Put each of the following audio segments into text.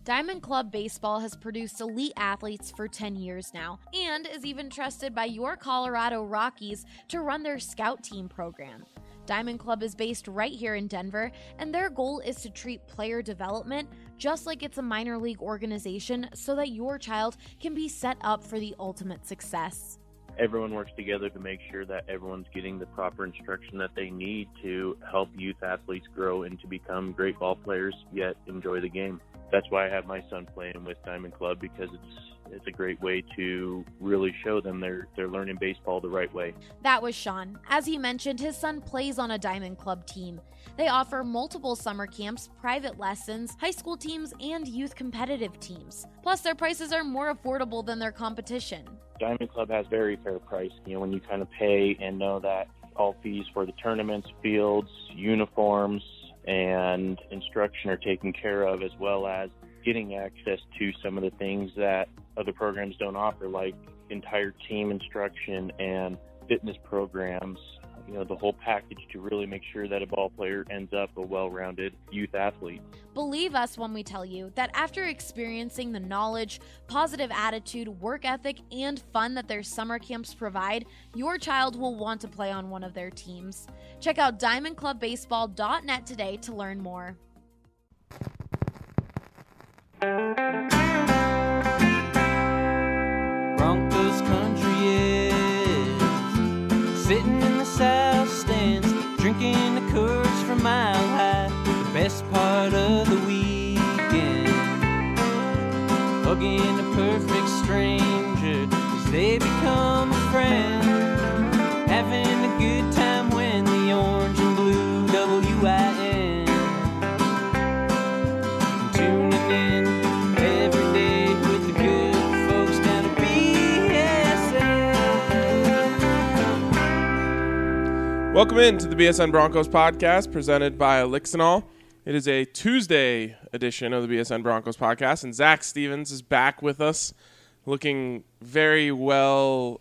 Diamond Club Baseball has produced elite athletes for 10 years now and is even trusted by your Colorado Rockies to run their scout team program. Diamond Club is based right here in Denver, and their goal is to treat player development just like it's a minor league organization so that your child can be set up for the ultimate success. Everyone works together to make sure that everyone's getting the proper instruction that they need to help youth athletes grow and to become great ball players, yet enjoy the game. That's why I have my son playing with Diamond Club, because it's a great way to really show them they're learning baseball the right way. That was Sean. As he mentioned, his son plays on a Diamond Club team. They offer multiple summer camps, private lessons, high school teams, and youth competitive teams. Plus, their prices are more affordable than their competition. Diamond Club has very fair price. When you kind of pay and know that all fees for the tournaments, fields, uniforms, and instruction are taken care of, as well as getting access to some of the things that other programs don't offer, like entire team instruction and fitness programs, the whole package to really make sure that a ball player ends up a well-rounded youth athlete. Believe us when we tell you that after experiencing the knowledge, positive attitude, work ethic, and fun that their summer camps provide, your child will want to play on one of their teams. Check out diamondclubbaseball.net today to learn more. Broncos country is sitting in the south stands, drinking the Coors from Mile High, the best part of the weekend, hugging a perfect stranger as they become a friend, having a good time when the orange and blue WIN, tuning in every day with the good folks down at BSN. Welcome in to the BSN Broncos podcast presented by Elixinol. It is a Tuesday edition of the BSN Broncos podcast, and Zach Stevens is back with us, looking very well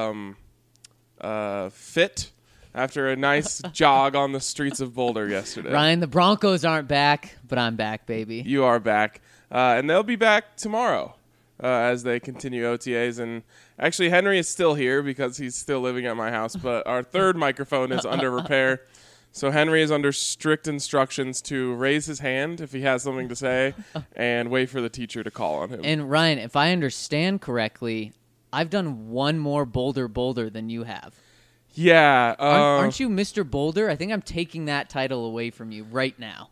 fit after a nice jog on the streets of Boulder yesterday. Ryan, the Broncos aren't back, but I'm back, baby. You are back, and they'll be back tomorrow as they continue OTAs. And actually, Henry is still here because he's still living at my house, but our third microphone is under repair. So Henry is under strict instructions to raise his hand if he has something to say and wait for the teacher to call on him. And Ryan, if I understand correctly, I've done one more Boulder than you have. Yeah. Aren't you Mr. Boulder? I think I'm taking that title away from you right now.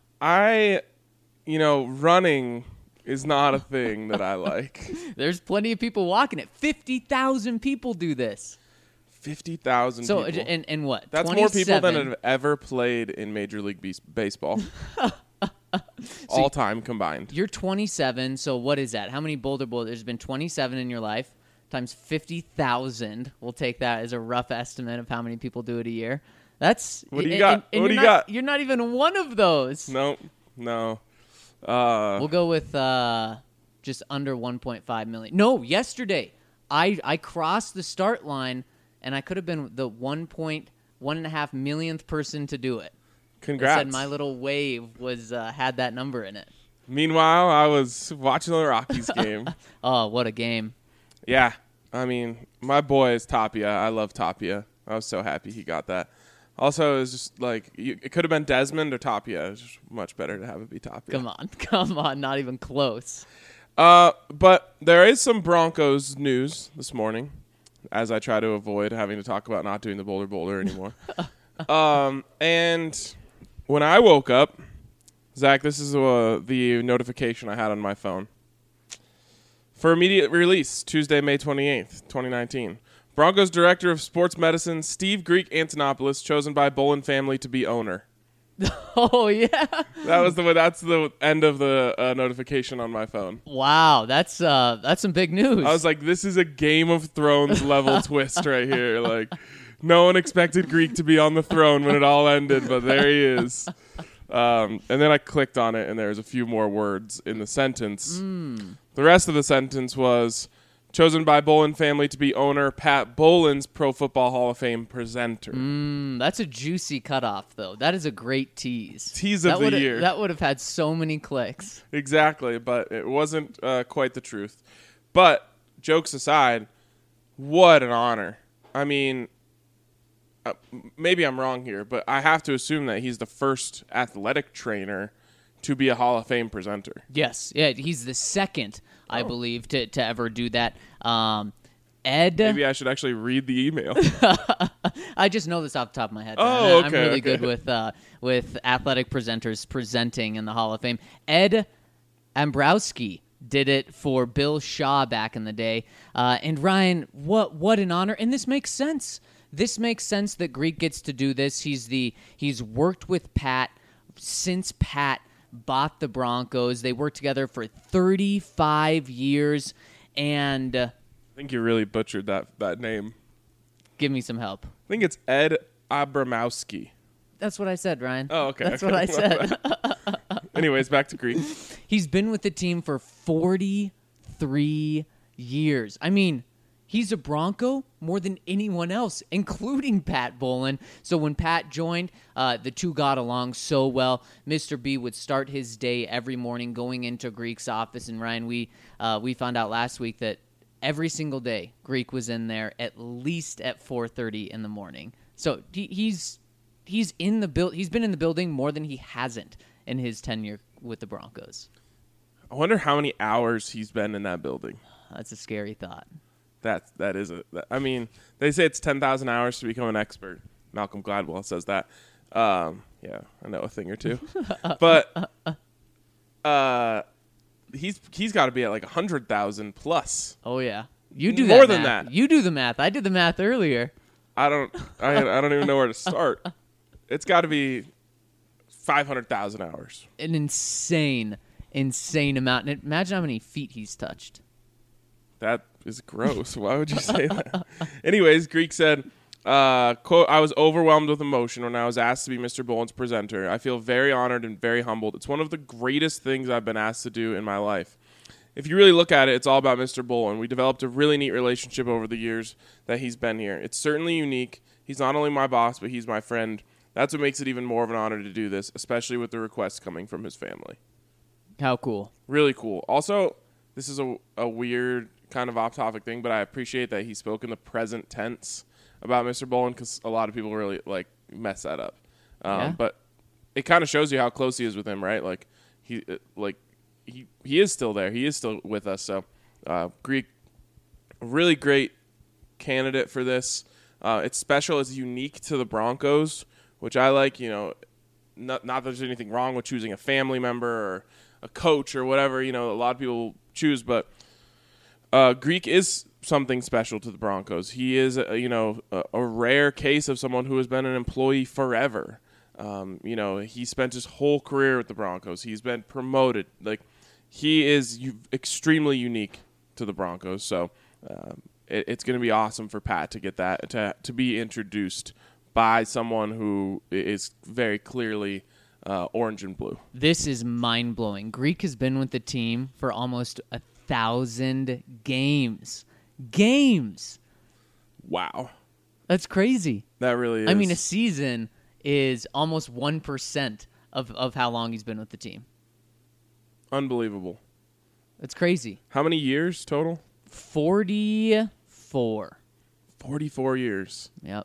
Running is not a thing that I like. There's plenty of people walking it. 50,000 people do this. 50,000 people. So, and what? That's 27. more people than have ever played in Major League Baseball. All time combined. You're 27, so what is that? How many Boulder? There's been 27 in your life. Times 50,000. We'll take that as a rough estimate of how many people do it a year. That's what do you got? And what do you got? You're not even one of those. No. We'll go with just under 1.5 million. No, yesterday I crossed the start line, and I could have been the 1.5 millionth person to do it. Congrats! I said my little wave was had that number in it. Meanwhile, I was watching the Rockies game. Oh, what a game! Yeah, I mean, my boy is Tapia. I love Tapia. I was so happy he got that. Also, it was just like, it could have been Desmond or Tapia. It was just much better to have it be Tapia. Come on, not even close. But there is some Broncos news this morning, as I try to avoid having to talk about not doing the Boulder anymore. And when I woke up, Zach, this is the notification I had on my phone. For immediate release, Tuesday, May 28th, 2019. Broncos Director of Sports Medicine, Steve Greek Antonopoulos, chosen by Bolin family to be owner. Oh, yeah. That's the end of the notification on my phone. Wow, that's some big news. I was like, this is a Game of Thrones level twist right here. Like, no one expected Greek to be on the throne when it all ended, but there he is. And then I clicked on it, and there was a few more words in the sentence. The rest of the sentence was, Chosen by Bowlen family to be owner Pat Bowlen's Pro Football Hall of Fame presenter. That's a juicy cutoff, though. That is a great tease. Tease of the year. That would have had so many clicks. Exactly, but it wasn't quite the truth. But jokes aside, what an honor. I mean, maybe I'm wrong here, but I have to assume that he's the first athletic trainer to be a Hall of Fame presenter. Yes, yeah, he's the second, I believe, to ever do that. Ed, maybe I should actually read the email. I just know this off the top of my head. Oh, okay. I'm really good with athletic presenters presenting in the Hall of Fame. Ed Ambrowski did it for Bill Shaw back in the day. And Ryan, what an honor! And this makes sense. This makes sense that Greek gets to do this. He's worked with Pat since Pat bought the Broncos. They worked together for 35 years, and I think you really butchered that name. Give me some help. I think it's Ed Abramowski. That's what I said, Ryan. Oh, okay. That's what I said. Anyways, back to Greek. He's been with the team for 43 years. I mean, he's a Bronco more than anyone else, including Pat Bowlen. So when Pat joined, the two got along so well. Mr. B would start his day every morning going into Greek's office. And Ryan, we found out last week that every single day Greek was in there at least at 4:30 in the morning. So he's in the He's been in the building more than he hasn't in his tenure with the Broncos. I wonder how many hours he's been in that building. That's a scary thought. That is I mean, they say it's 10,000 hours to become an expert. Malcolm Gladwell says that. Yeah, I know a thing or two. But he's got to be at like 100,000 plus. Oh yeah, you do that more than math. that. You do the math. I did the math earlier. I don't even know where to start. It's got to be 500,000 hours. An insane amount. And imagine how many feet he's touched. That is gross. Why would you say that? Anyways, Greek said, quote, I was overwhelmed with emotion when I was asked to be Mr. Bowlen's presenter. I feel very honored and very humbled. It's one of the greatest things I've been asked to do in my life. If you really look at it, it's all about Mr. Bowlen. We developed a really neat relationship over the years that he's been here. It's certainly unique. He's not only my boss, but he's my friend. That's what makes it even more of an honor to do this, especially with the requests coming from his family. How cool. Really cool. Also, this is a weird kind of off-topic thing, but I appreciate that he spoke in the present tense about Mr. Bowlen because a lot of people really mess that up. Yeah. But it kind of shows you how close he is with him, right? He is still there. He is still with us. So Greek, really great candidate for this. It's special. It's unique to the Broncos, which I like. Not that there's anything wrong with choosing a family member or a coach or whatever. A lot of people choose, but Greek is something special to the Broncos. He is, a rare case of someone who has been an employee forever. He spent his whole career with the Broncos. He's been promoted. He is extremely unique to the Broncos. So it's going to be awesome for Pat to get that, to be introduced by someone who is very clearly orange and blue. This is mind-blowing. Greek has been with the team for almost 1,000 games. Wow. That's crazy. That really is. I mean, a season is almost 1% of how long he's been with the team. Unbelievable. That's crazy. How many years total? 44. 44 years. Yep.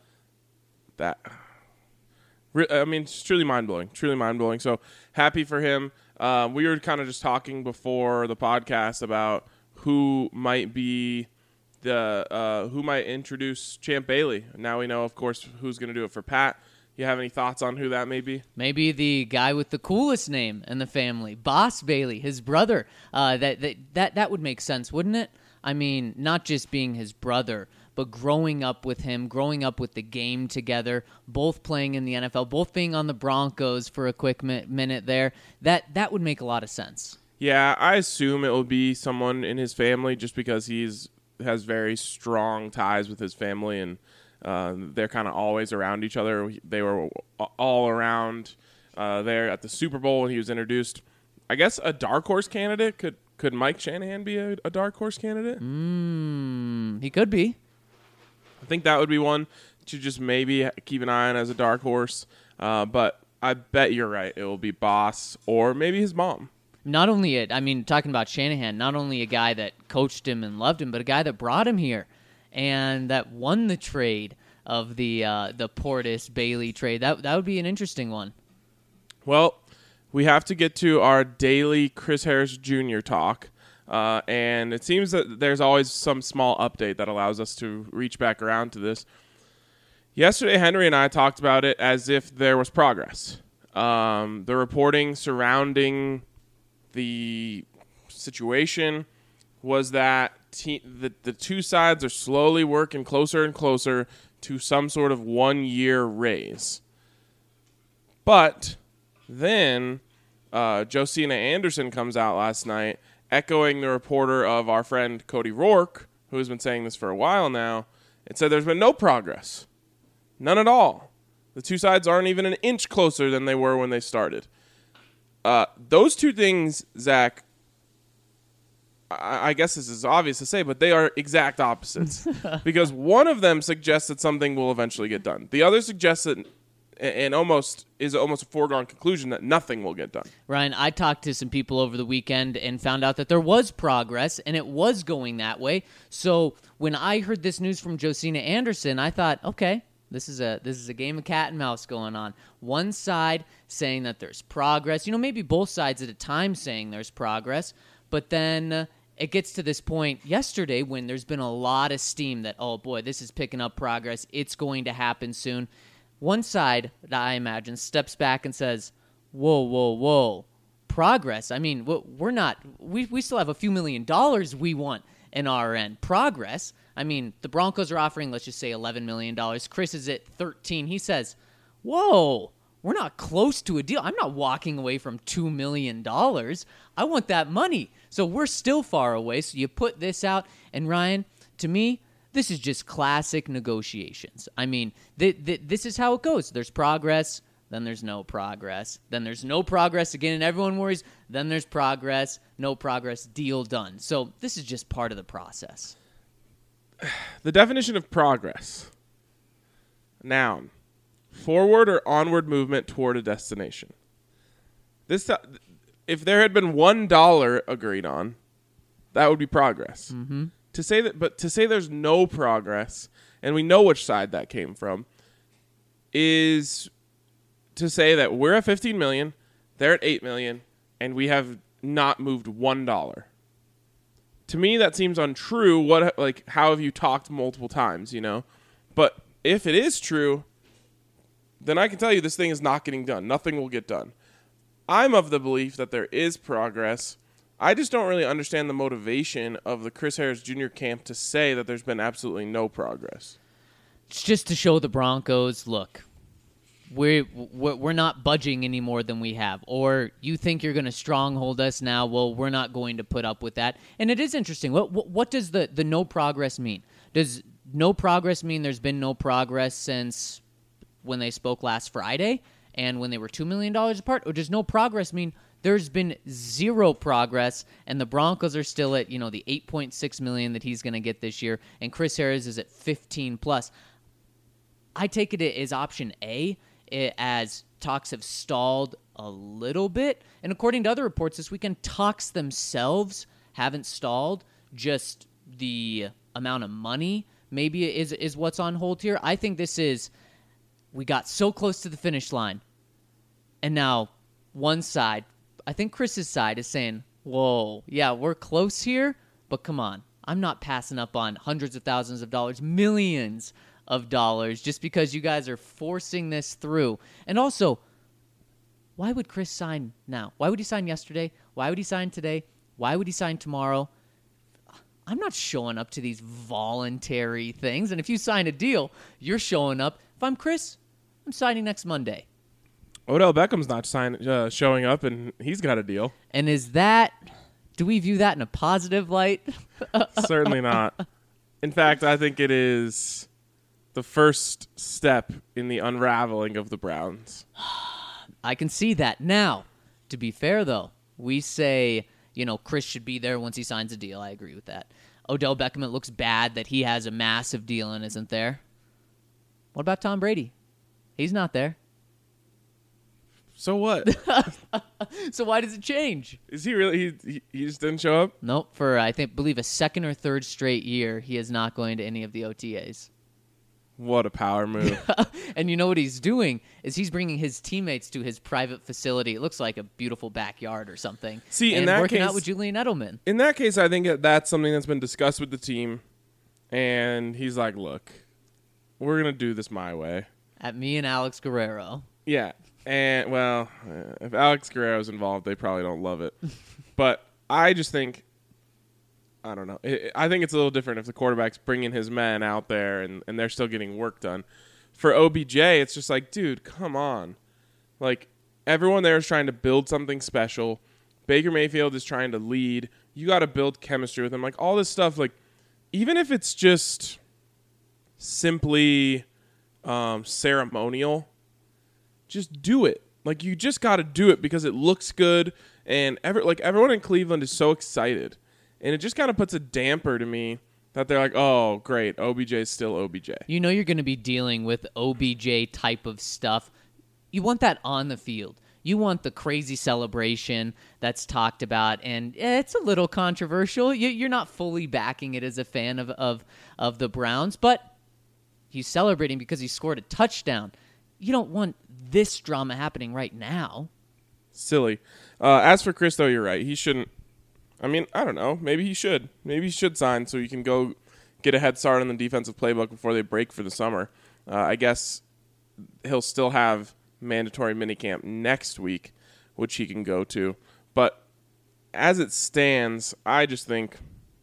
It's truly mind-blowing. Truly mind-blowing. So happy for him. We were kind of just talking before the podcast about who might be who might introduce Champ Bailey. Now we know, of course, who's going to do it for Pat. You have any thoughts on who that may be? Maybe the guy with the coolest name in the family, Boss Bailey, his brother. That would make sense, wouldn't it? I mean, not just being his brother, but growing up with him, growing up with the game together, both playing in the NFL, both being on the Broncos for a quick minute there. That would make a lot of sense. Yeah, I assume it will be someone in his family just because has very strong ties with his family, and they're kind of always around each other. They were all around there at the Super Bowl when he was introduced. I guess a dark horse candidate Could Mike Shanahan be a dark horse candidate? He could be. I think that would be one to just maybe keep an eye on as a dark horse. But I bet you're right. It will be Boss or maybe his mom. Not only talking about Shanahan, not only a guy that coached him and loved him, but a guy that brought him here and that won the trade of the Portis Bailey trade. That would be an interesting one. Well, we have to get to our daily Chris Harris Jr. talk. And it seems that there's always some small update that allows us to reach back around to this. Yesterday, Henry and I talked about it as if there was progress. The reporting surrounding the situation was that the two sides are slowly working closer and closer to some sort of 1-year raise. But then Josina Anderson comes out last night echoing the reporter of our friend Cody Rourke, who has been saying this for a while now, and said there's been no progress. None at all. The two sides aren't even an inch closer than they were when they started. Those two things, Zach, I guess this is obvious to say, but they are exact opposites. Because one of them suggests that something will eventually get done. The other suggests that almost a foregone conclusion that nothing will get done. Ryan, I talked to some people over the weekend and found out that there was progress and it was going that way. So when I heard this news from Josina Anderson, I thought, okay, this is a game of cat and mouse going on. One side saying that there's progress, maybe both sides at a time saying there's progress, but then it gets to this point yesterday when there's been a lot of steam that, oh boy, this is picking up progress. It's going to happen soon. One side, I imagine, steps back and says, whoa, progress? I mean, we still have a few $1 million we want in our end. Progress? I mean, the Broncos are offering, let's just say, $11 million. Chris is at 13. He says, whoa, we're not close to a deal. I'm not walking away from $2 million. I want that money. So we're still far away. So you put this out, and Ryan, to me, this is just classic negotiations. I mean, this is how it goes. There's progress, then there's no progress. Then there's no progress again, and everyone worries. Then there's progress, no progress, deal done. So this is just part of the process. The definition of progress. Noun. Forward or onward movement toward a destination. If there had been $1 agreed on, that would be progress. Mm-hmm. To say there's no progress, and we know which side that came from, is to say that we're at $15 million, they're at $8 million, and we have not moved $1. To me, that seems untrue. How have you talked multiple times, But if it is true, then I can tell you this thing is not getting done. Nothing will get done. I'm of the belief that there is progress. I just don't really understand the motivation of the Chris Harris Jr. camp to say that there's been absolutely no progress. It's just to show the Broncos, look, we're not budging any more than we have. Or you think you're going to stronghold us now? Well, we're not going to put up with that. And it is interesting. What does the no progress mean? Does no progress mean there's been no progress since when they spoke last Friday and when they were $2 million apart? Or does no progress mean there's been zero progress and the Broncos are still at, the $8.6 million that he's going to get this year, and Chris Harris is at 15 plus? I take it as option A, as talks have stalled a little bit. And according to other reports this weekend, talks themselves haven't stalled. Just the amount of money maybe is what's on hold here. I think this is, we got so close to the finish line, and now one side, I think Chris's side, is saying, whoa, yeah, we're close here, but come on. I'm not passing up on hundreds of thousands of dollars, millions of dollars, just because you guys are forcing this through. And also, why would Chris sign now? Why would he sign yesterday? Why would he sign today? Why would he sign tomorrow? I'm not showing up to these voluntary things. And if you sign a deal, you're showing up. If I'm Chris, I'm signing next Monday. Odell Beckham's not showing up, and he's got a deal. And do we view that in a positive light? Certainly not. In fact, I think it is the first step in the unraveling of the Browns. I can see that. Now, to be fair, though, we say, Chris should be there once he signs a deal. I agree with that. Odell Beckham, it looks bad that he has a massive deal and isn't there. What about Tom Brady? He's not there. So what? So why does it change? Is he really? He just didn't show up? Nope. For, I believe a second or third straight year, he is not going to any of the OTAs. What a power move. And you know what he's doing is he's bringing his teammates to his private facility. It looks like a beautiful backyard or something. See, in and that working case, out with Julian Edelman. In that case, I think that's something that's been discussed with the team. And he's like, look, we're going to do this my way. At me and Alex Guerrero. Yeah. And, well, if Alex Guerrero's involved, they probably don't love it. But I just think, I don't know. I think it's a little different if the quarterback's bringing his men out there and they're still getting work done. For OBJ, it's just like, dude, come on. Like, everyone there is trying to build something special. Baker Mayfield is trying to lead. You got to build chemistry with him. Like, all this stuff, like, even if it's just simply ceremonial, just do it. Like, you just got to do it because it looks good, and everyone in Cleveland is so excited, and it just kind of puts a damper to me that they're like, oh, great, OBJ is still OBJ. You know you're going to be dealing with OBJ type of stuff. You want that on the field. You want the crazy celebration that's talked about, and it's a little controversial. You're not fully backing it as a fan of the Browns, but he's celebrating because he scored a touchdown. You don't want this drama happening right now. Silly. As for Chris, though, you're right. He shouldn't. I mean, I don't know. Maybe he should. Maybe he should sign so he can go get a head start on the defensive playbook before they break for the summer. I guess he'll still have mandatory minicamp next week, which he can go to. But as it stands, I just think,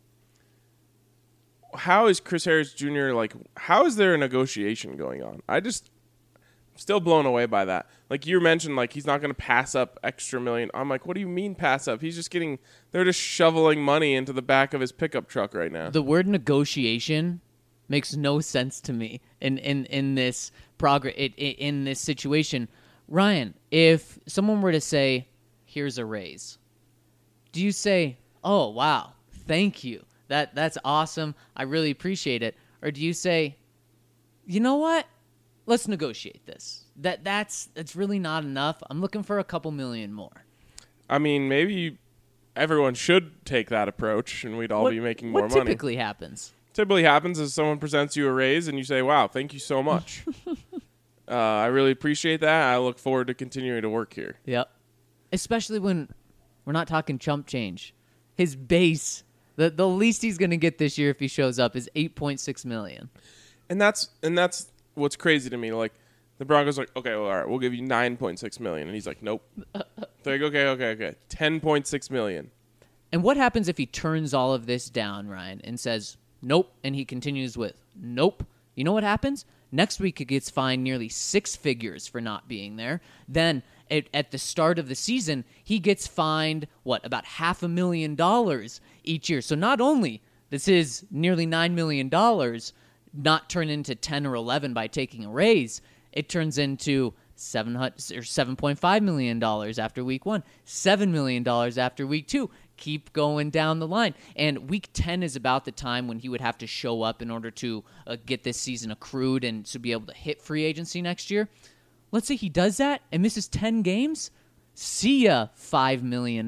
how is Chris Harris Jr., how is there a negotiation going on? Still blown away by that. Like you mentioned, he's not going to pass up extra million. I'm like, what do you mean pass up? He's just they're just shoveling money into the back of his pickup truck right now. The word negotiation makes no sense to me in this in this situation. Ryan, if someone were to say, here's a raise, do you say, oh, wow, thank you. That's awesome. I really appreciate it. Or do you say, you know what? Let's negotiate this. That's really not enough. I'm looking for a couple million more. I mean, maybe everyone should take that approach, and we'd all be making more money. What typically happens? Typically happens is someone presents you a raise, and you say, wow, thank you so much. I really appreciate that. I look forward to continuing to work here. Yep. Especially when we're not talking chump change. His base, the least he's going to get this year if he shows up is $8.6 million. And that's what's crazy to me. Like, the Broncos are like, okay, well, all right, we'll give you $9.6 million. And he's like, nope. They're like, okay. $10.6 million. And what happens if he turns all of this down, Ryan, and says, nope, and he continues with, nope? You know what happens? Next week, he gets fined nearly 6 figures for not being there. Then, at the start of the season, he gets fined, about $500,000 each year. So not only does his nearly $9 million not turn into 10 or 11 by taking a raise, it turns into $7.5 million after week 1, $7 million after week 2. Keep going down the line. And week 10 is about the time when he would have to show up in order to get this season accrued and to be able to hit free agency next year. Let's say he does that and misses 10 games. See ya, $5 million.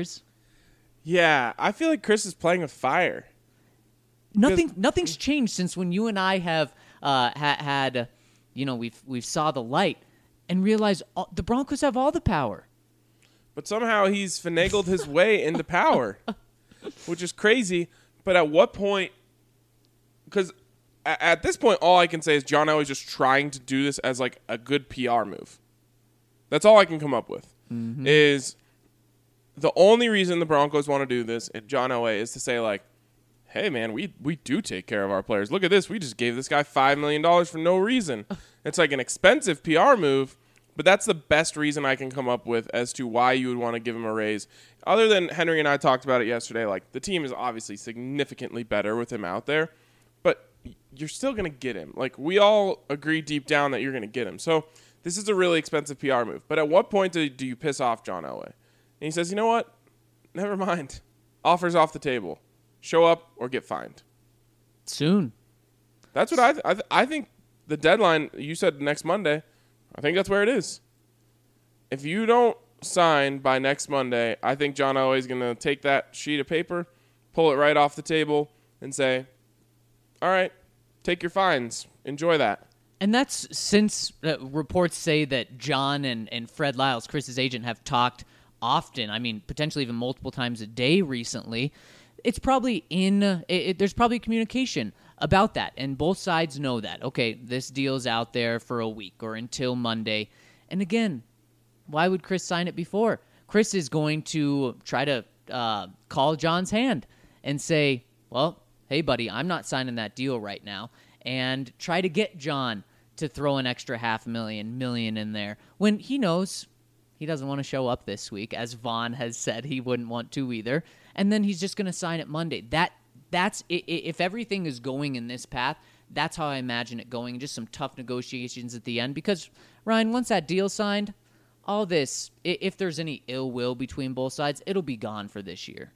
Yeah, I feel like Chris is playing with fire. Nothing's changed since when you and I have had, we've saw the light and realized the Broncos have all the power. But somehow he's finagled his way into power, which is crazy. But at what point? Because at this point, all I can say is John Elway's just trying to do this as a good PR move. That's all I can come up with. Mm-hmm. Is the only reason the Broncos want to do this, and John Elway, is to say hey man, we do take care of our players. Look at this, we just gave this guy $5 million for no reason. It's an expensive PR move. But that's the best reason I can come up with as to why you would want to give him a raise. Other than Henry and I talked about it yesterday, the team is obviously significantly better with him out there, but you're still going to get him. We all agree deep down that you're going to get him. So this is a really expensive PR move. But at what point do you piss off John Elway? And he says, you know what? never mind. Offers off the table. Show up or get fined. Soon. That's what I think the deadline, you said next Monday. I think that's where it is. If you don't sign by next Monday, I think John Elway is going to take that sheet of paper, pull it right off the table, and say, all right, take your fines. Enjoy that. And that's since reports say that John and Fred Lyles, Chris's agent, have talked often. I mean, potentially even multiple times a day recently. It's probably there's probably communication about that, and both sides know that. Okay, this deal's out there for a week or until Monday. And again, why would Chris sign it before? Chris is going to try to call John's hand and say, well, hey, buddy, I'm not signing that deal right now, and try to get John to throw an extra $500,000 million in there when he knows he doesn't want to show up this week, as Vaughn has said he wouldn't want to either, and then he's just going to sign it Monday. That's if everything is going in this path, that's how I imagine it going, just some tough negotiations at the end, because, Ryan, once that deal's signed, all this, if there's any ill will between both sides, it'll be gone for this year.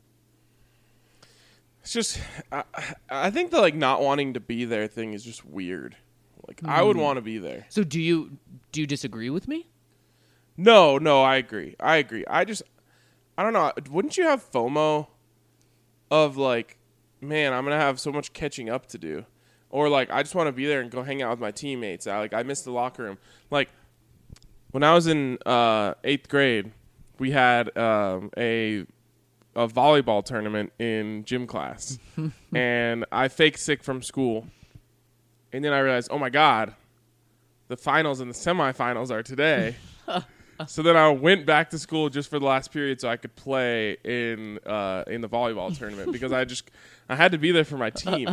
It's just, I think the not wanting to be there thing is just weird. I would want to be there. So do you disagree with me? No, I agree. I don't know. Wouldn't you have FOMO of man, I'm going to have so much catching up to do? Or I just want to be there and go hang out with my teammates. I miss the locker room. When I was in 8th grade, we had a volleyball tournament in gym class. And I faked sick from school. And then I realized, oh my God, the finals and the semifinals are today. So then I went back to school just for the last period so I could play in the volleyball tournament because I had to be there for my team.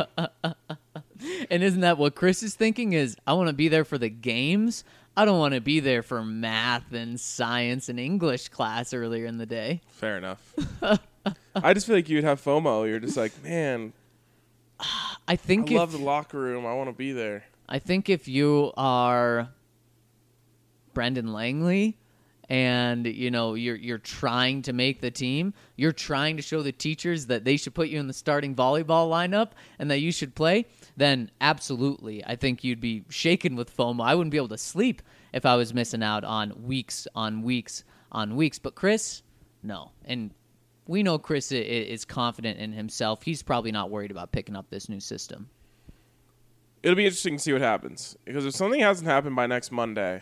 And isn't that what Chris is thinking? Is I want to be there for the games. I don't want to be there for math and science and English class earlier in the day. Fair enough. I just feel like you'd have FOMO. You're just man, I love the locker room. I want to be there. I think if you are Brendan Langley and you're trying to make the team, you're trying to show the teachers that they should put you in the starting volleyball lineup and that you should play, then absolutely, I think you'd be shaken with FOMO. I wouldn't be able to sleep if I was missing out on weeks on weeks on weeks. But Chris, no. And we know Chris is confident in himself. He's probably not worried about picking up this new system. It'll be interesting to see what happens. Because if something hasn't happened by next Monday,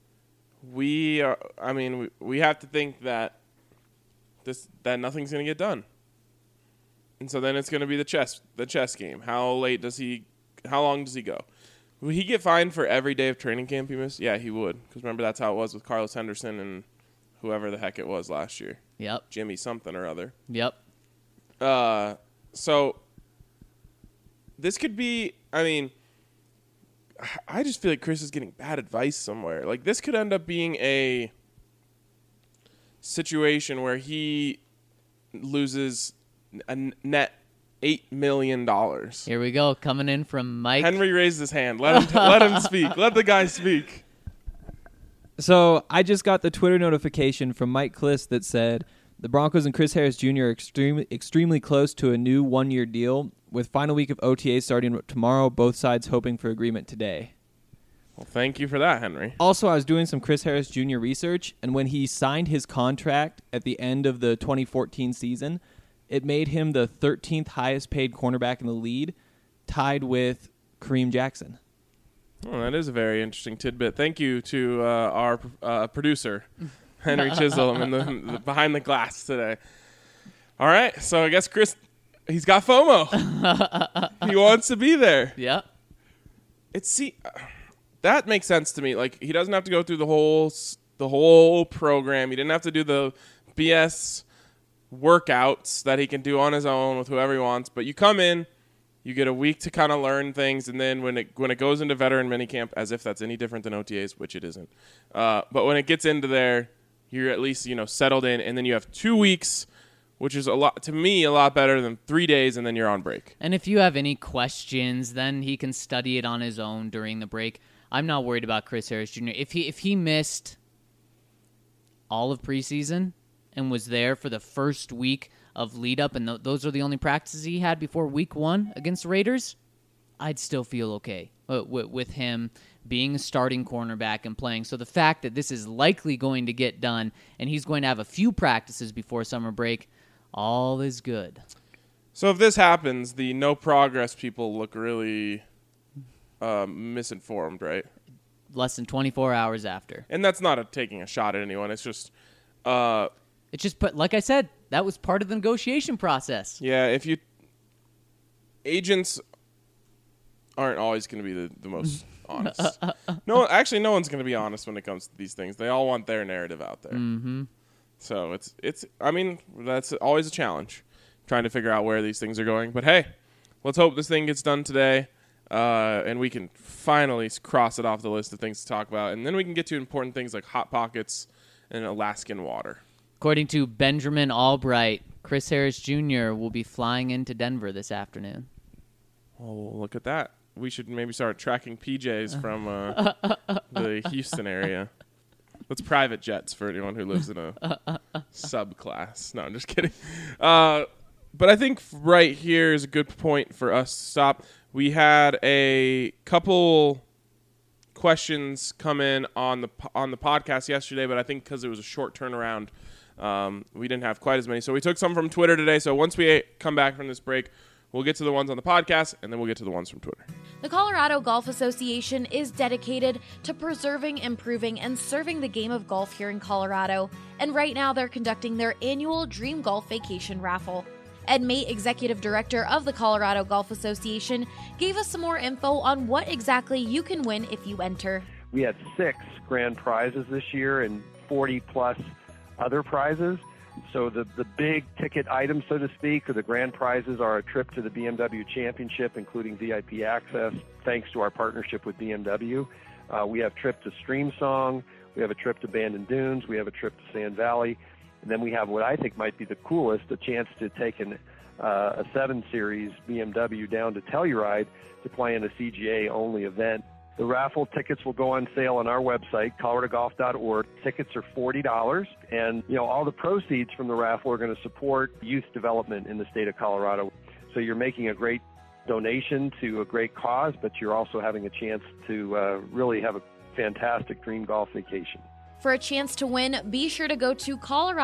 we have to think that nothing's going to get done. And so then it's going to be the chess game. How long does he go? Would he get fined for every day of training camp he missed? Yeah, he would. Because remember, that's how it was with Carlos Henderson and whoever the heck it was last year. Yep. Jimmy something or other. Yep. So this could be, I just feel like Chris is getting bad advice somewhere. This could end up being a situation where he loses a net $8 million. Here we go, coming in from Mike. Henry raised his hand. Let him speak. Let the guy speak. So I just got the Twitter notification from Mike Kliss that said the Broncos and Chris Harris Jr. are extremely close to a new one-year deal, with final week of OTA starting tomorrow, both sides hoping for agreement today. Well, thank you for that, Henry. Also, I was doing some Chris Harris Jr. research, and when he signed his contract at the end of the 2014 season, it made him the 13th highest paid cornerback in the league, tied with Kareem Jackson. Oh, that is a very interesting tidbit. Thank you to our producer, Henry Chisholm, in the behind the glass today. All right, so I guess Chris, he's got FOMO. He wants to be there. Yeah. That makes sense to me. He doesn't have to go through the whole program. He didn't have to do the BS workouts that he can do on his own with whoever he wants. But you come in, you get a week to kind of learn things, and then when it goes into veteran minicamp, as if that's any different than OTAs, which it isn't. But when it gets into there, you're at least settled in, and then you have 2 weeks, which is a lot better than 3 days, and then you're on break. And if you have any questions, then he can study it on his own during the break. I'm not worried about Chris Harris Jr. If he missed all of preseason and was there for the first week of lead up, and those are the only practices he had before week 1 against the Raiders, I'd still feel okay with him being a starting cornerback and playing. So the fact that this is likely going to get done and he's going to have a few practices before summer break, all is good. So if this happens, the no progress people look really misinformed, right? Less than 24 hours after. And that's not taking a shot at anyone. It's just... It's just, like I said, that was part of the negotiation process. Yeah, if you... Agents aren't always going to be the most honest. No one's going to be honest when it comes to these things. They all want their narrative out there. Mm-hmm. So it's I mean, that's always a challenge, trying to figure out where these things are going. But hey, let's hope this thing gets done today, and we can finally cross it off the list of things to talk about. And then we can get to important things like Hot Pockets and Alaskan water. According to Benjamin Albright, Chris Harris Jr. will be flying into Denver this afternoon. Oh, look at that. We should maybe start tracking PJs from the Houston area. That's private jets for anyone who lives in a subclass. No, I'm just kidding. But I think right here is a good point for us to stop. We had a couple questions come in on the podcast yesterday, but I think because it was a short turnaround, we didn't have quite as many. So we took some from Twitter today. So once we come back from this break, we'll get to the ones on the podcast, and then we'll get to the ones from Twitter. The Colorado Golf Association is dedicated to preserving, improving, and serving the game of golf here in Colorado, and right now they're conducting their annual Dream Golf Vacation Raffle. Ed Mate, Executive Director of the Colorado Golf Association, gave us some more info on what exactly you can win if you enter. We had 6 grand prizes this year and 40-plus other prizes. So the big ticket items, so to speak, or the grand prizes are a trip to the BMW Championship, including VIP access, thanks to our partnership with BMW. We have a trip to Streamsong. We have a trip to Bandon Dunes. We have a trip to Sand Valley. And then we have what I think might be the coolest, a chance to take a 7 Series BMW down to Telluride to play in a CGA-only event. The raffle tickets will go on sale on our website, coloradogolf.org. Tickets are $40, and all the proceeds from the raffle are going to support youth development in the state of Colorado. So you're making a great donation to a great cause, but you're also having a chance to really have a fantastic dream golf vacation. For a chance to win, be sure to go to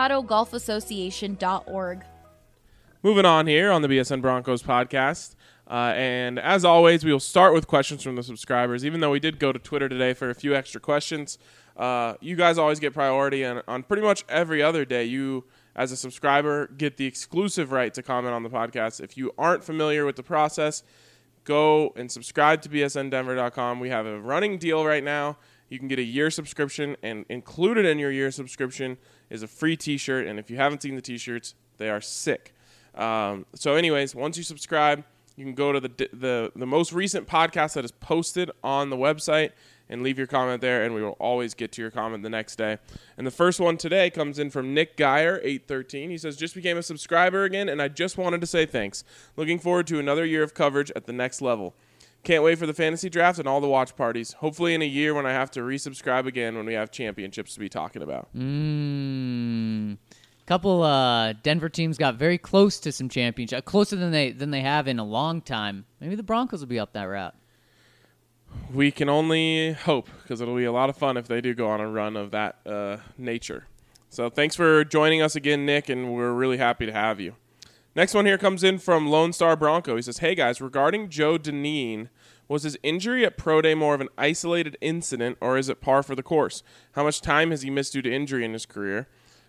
coloradogolfassociation.org. Moving on here on the BSN Broncos podcast. And as always, we will start with questions from the subscribers. Even though we did go to Twitter today for a few extra questions, you guys always get priority. And on pretty much every other day, you, as a subscriber, get the exclusive right to comment on the podcast. If you aren't familiar with the process, go and subscribe to bsndenver.com. We have a running deal right now. You can get a year subscription, and included in your year subscription is a free T-shirt. And if you haven't seen the T-shirts, they are sick. So anyways, once you subscribe, you can go to the most recent podcast that is posted on the website and leave your comment there, and we will always get to your comment the next day. And the first one today comes in from Nick Geyer, 813. He says, just became a subscriber again, and I just wanted to say thanks. Looking forward to another year of coverage at the next level. Can't wait for the fantasy draft and all the watch parties. Hopefully in a year when I have to resubscribe again when we have championships to be talking about. Couple Denver teams got very close to some championship, closer than they have in a long time. Maybe the Broncos will be up that route. We can only hope, because it'll be a lot of fun if they do go on a run of that nature. So thanks for joining us again, Nick, and we're really happy to have you. Next one here comes in from Lone Star Bronco. He says, hey guys, regarding Joe Dineen, was his injury at Pro Day more of an isolated incident, or is it par for the course? How much time has he missed due to injury in his career?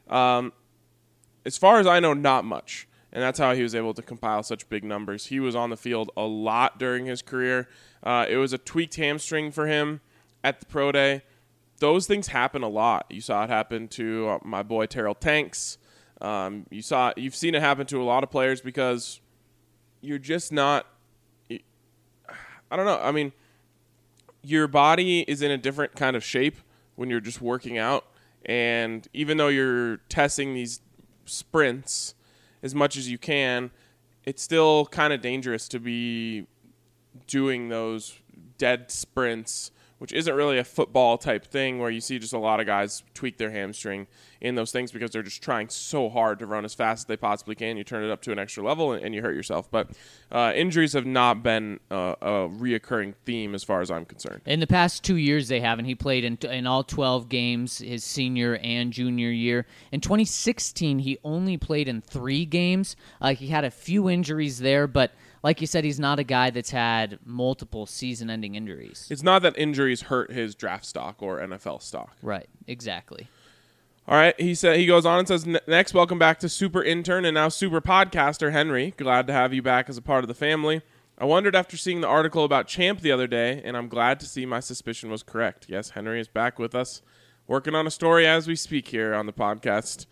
As far as I know, not much. And that's how he was able to compile such big numbers. He was on the field a lot during his career. It was a tweaked hamstring for him at the Pro Day. Those things happen a lot. You saw it happen to my boy Terrell Tanks. You've seen it happen to a lot of players because you're just not. I don't know. I mean, your body is in a different kind of shape when you're just working out, and even though you're testing these sprints as much as you can, it's still kind of dangerous to be doing those dead sprints, which isn't really a football type thing where you see just a lot of guys tweak their hamstring in those things because they're just trying so hard to run as fast as they possibly can. You turn it up to an extra level and you hurt yourself. But injuries have not been a reoccurring theme as far as I'm concerned. In the past 2 years, they haven't. He played in all 12 games his senior and junior year. In 2016, he only played in 3 games. He had a few injuries there, but like you said, he's not a guy that's had multiple season-ending injuries. It's not that injuries hurt his draft stock or NFL stock. Right, exactly. All right, he goes on and says, next, welcome back to super intern and now super podcaster Henry. Glad to have you back as a part of the family. I wondered after seeing the article about Champ the other day, and I'm glad to see my suspicion was correct. Yes, Henry is back with us, working on a story as we speak here on the podcast.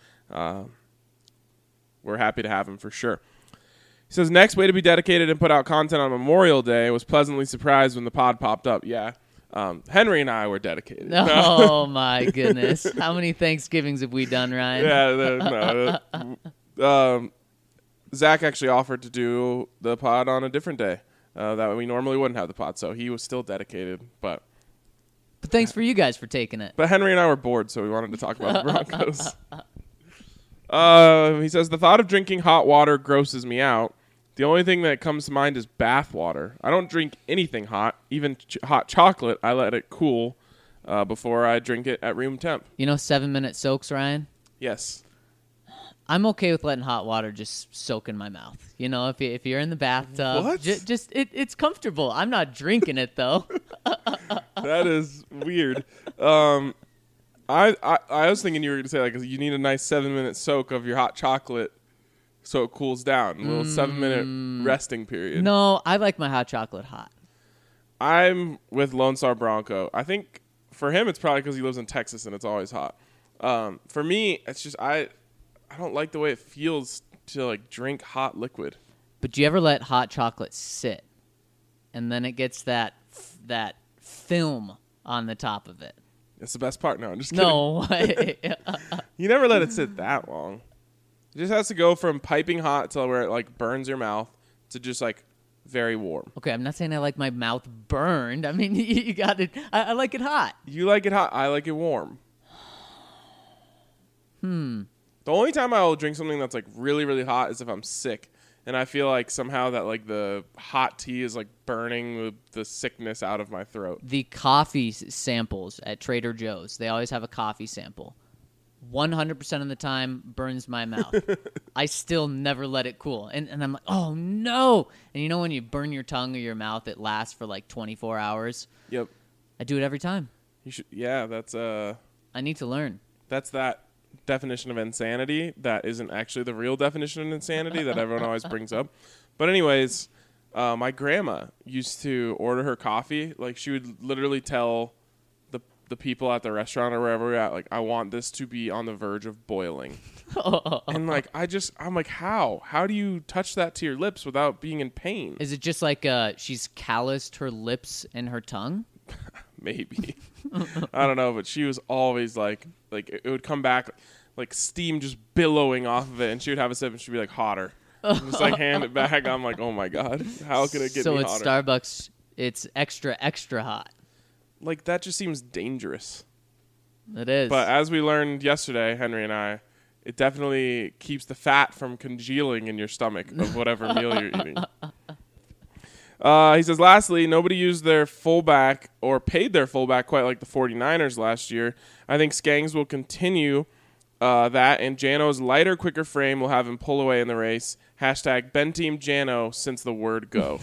We're happy to have him for sure. He says, next, way to be dedicated and put out content on Memorial Day. Was pleasantly surprised when the pod popped up. Yeah. Henry and I were dedicated. Oh, my goodness. How many Thanksgivings have we done, Ryan? Yeah. Zach actually offered to do the pod on a different day that we normally wouldn't have the pod, so he was still dedicated. But thanks for you guys for taking it. But Henry and I were bored, so we wanted to talk about the Broncos. He says, the thought of drinking hot water grosses me out. The only thing that comes to mind is bath water. I don't drink anything hot, even hot chocolate. I let it cool before I drink it at room temp. 7-minute soaks, Ryan? Yes. I'm okay with letting hot water just soak in my mouth. If you're in the bathtub, What? It's comfortable. I'm not drinking it, though. That is weird. I was thinking you were going to say, like, you need a nice 7-minute soak of your hot chocolate so it cools down. A little 7-minute resting period. No, I like my hot chocolate hot. I'm with Lone Star Bronco. I think for him it's probably because he lives in Texas and it's always hot. For me, it's just I don't like the way it feels to like drink hot liquid. But do you ever let hot chocolate sit, and then it gets that film on the top of it? That's the best part. No, I'm just kidding. No way. You never let it sit that long. It just has to go from piping hot to where it like burns your mouth to just like very warm. Okay, I'm not saying I like my mouth burned. I mean, you got it. I like it hot. You like it hot. I like it warm. The only time I will drink something that's like really, really hot is if I'm sick. And I feel like somehow that like the hot tea is like burning the sickness out of my throat. The coffee samples at Trader Joe's, they always have a coffee sample. 100% of the time burns my mouth. I still never let it cool. And I'm like, oh, no. And when you burn your tongue or your mouth, it lasts for like 24 hours? Yep. I do it every time. You should. Yeah, that's I need to learn. That's that definition of insanity that isn't actually the real definition of insanity that everyone always brings up. But anyways, my grandma used to order her coffee. Like, she would literally tell the people at the restaurant or wherever we're at, like, I want this to be on the verge of boiling. And like, I'm like, how do you touch that to your lips without being in pain? Is it just like she's calloused her lips and her tongue? Maybe. I don't know, but she was always like it would come back like steam just billowing off of it, and she would have a sip and she'd be like, hotter. And just like hand it back. I'm like, oh my God, how could it get me hotter? So at Starbucks, it's extra, extra hot. Like, that just seems dangerous. It is. But as we learned yesterday, Henry and I, it definitely keeps the fat from congealing in your stomach of whatever meal you're eating. He says, lastly, nobody used their fullback or paid their fullback quite like the 49ers last year. I think Skangs will continue that, and Jano's lighter, quicker frame will have him pull away in the race. Hashtag BenTeamJano since the word go.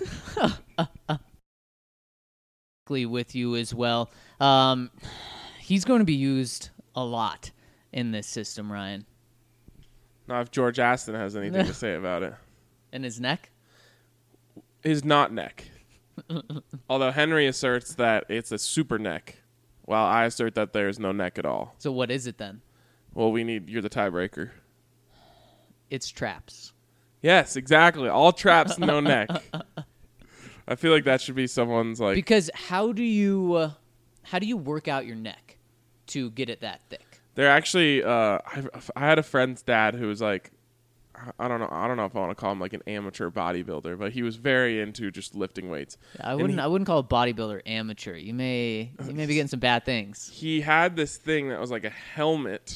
With you as well. He's going to be used a lot in this system, Ryan. Now, if George Aston has anything to say about it. And his neck? His not neck. Although Henry asserts that it's a super neck, while I assert that there's no neck at all. So what is it then? Well, you're the tiebreaker. It's traps. Yes, exactly. All traps, no neck. I feel like that should be someone's like. Because how do you work out your neck to get it that thick? They're actually. I had a friend's dad who was like, I don't know if I want to call him like an amateur bodybuilder, but he was very into just lifting weights. I wouldn't call a bodybuilder amateur. You may be getting some bad things. He had this thing that was like a helmet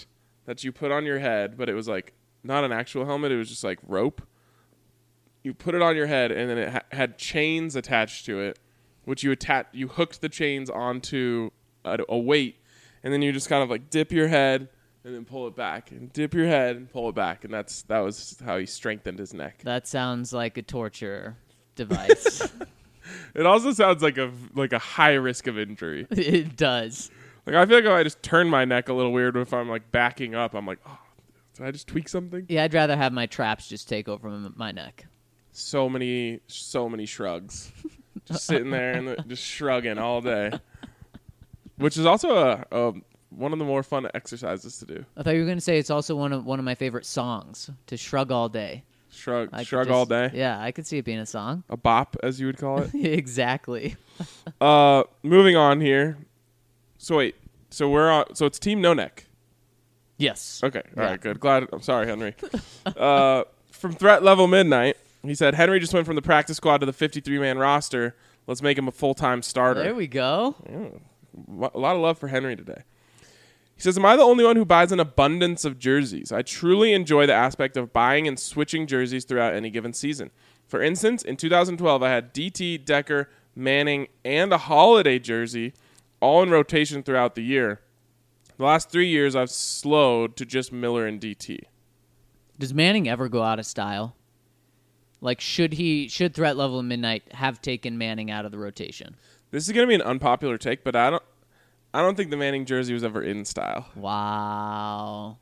that you put on your head, but it was like not an actual helmet. It was just like rope. You put it on your head, and then it had chains attached to it, which you hooked the chains onto a weight, and then you just kind of like dip your head and then pull it back, and dip your head and pull it back, and that was how he strengthened his neck. That sounds like a torture device. It also sounds like a high risk of injury. It does. Like I feel like if I just turn my neck a little weird if I'm like backing up, I'm like, oh, did I just tweak something? Yeah, I'd rather have my traps just take over my neck. So many shrugs, just sitting there and just shrugging all day, which is also one of the more fun exercises to do. I thought you were going to say it's also one of my favorite songs, to shrug all day. Shrug all day. Yeah, I could see it being a song. A bop, as you would call it. Exactly. Moving on here. So wait, so it's Team No Neck. Yes. Okay, all right, good. Glad. I'm sorry, Henry. From Threat Level Midnight, he said Henry just went from the practice squad to the 53-man roster. Let's make him a full-time starter. There we go. Yeah, a lot of love for Henry today. He says, am I the only one who buys an abundance of jerseys? I truly enjoy the aspect of buying and switching jerseys throughout any given season. For instance, in 2012, I had DT, Decker, Manning, and a holiday jersey all in rotation throughout the year. The last 3 years, I've slowed to just Miller and DT. Does Manning ever go out of style? Like, should Threat Level Midnight have taken Manning out of the rotation? This is going to be an unpopular take, but I don't think the Manning jersey was ever in style. Wow.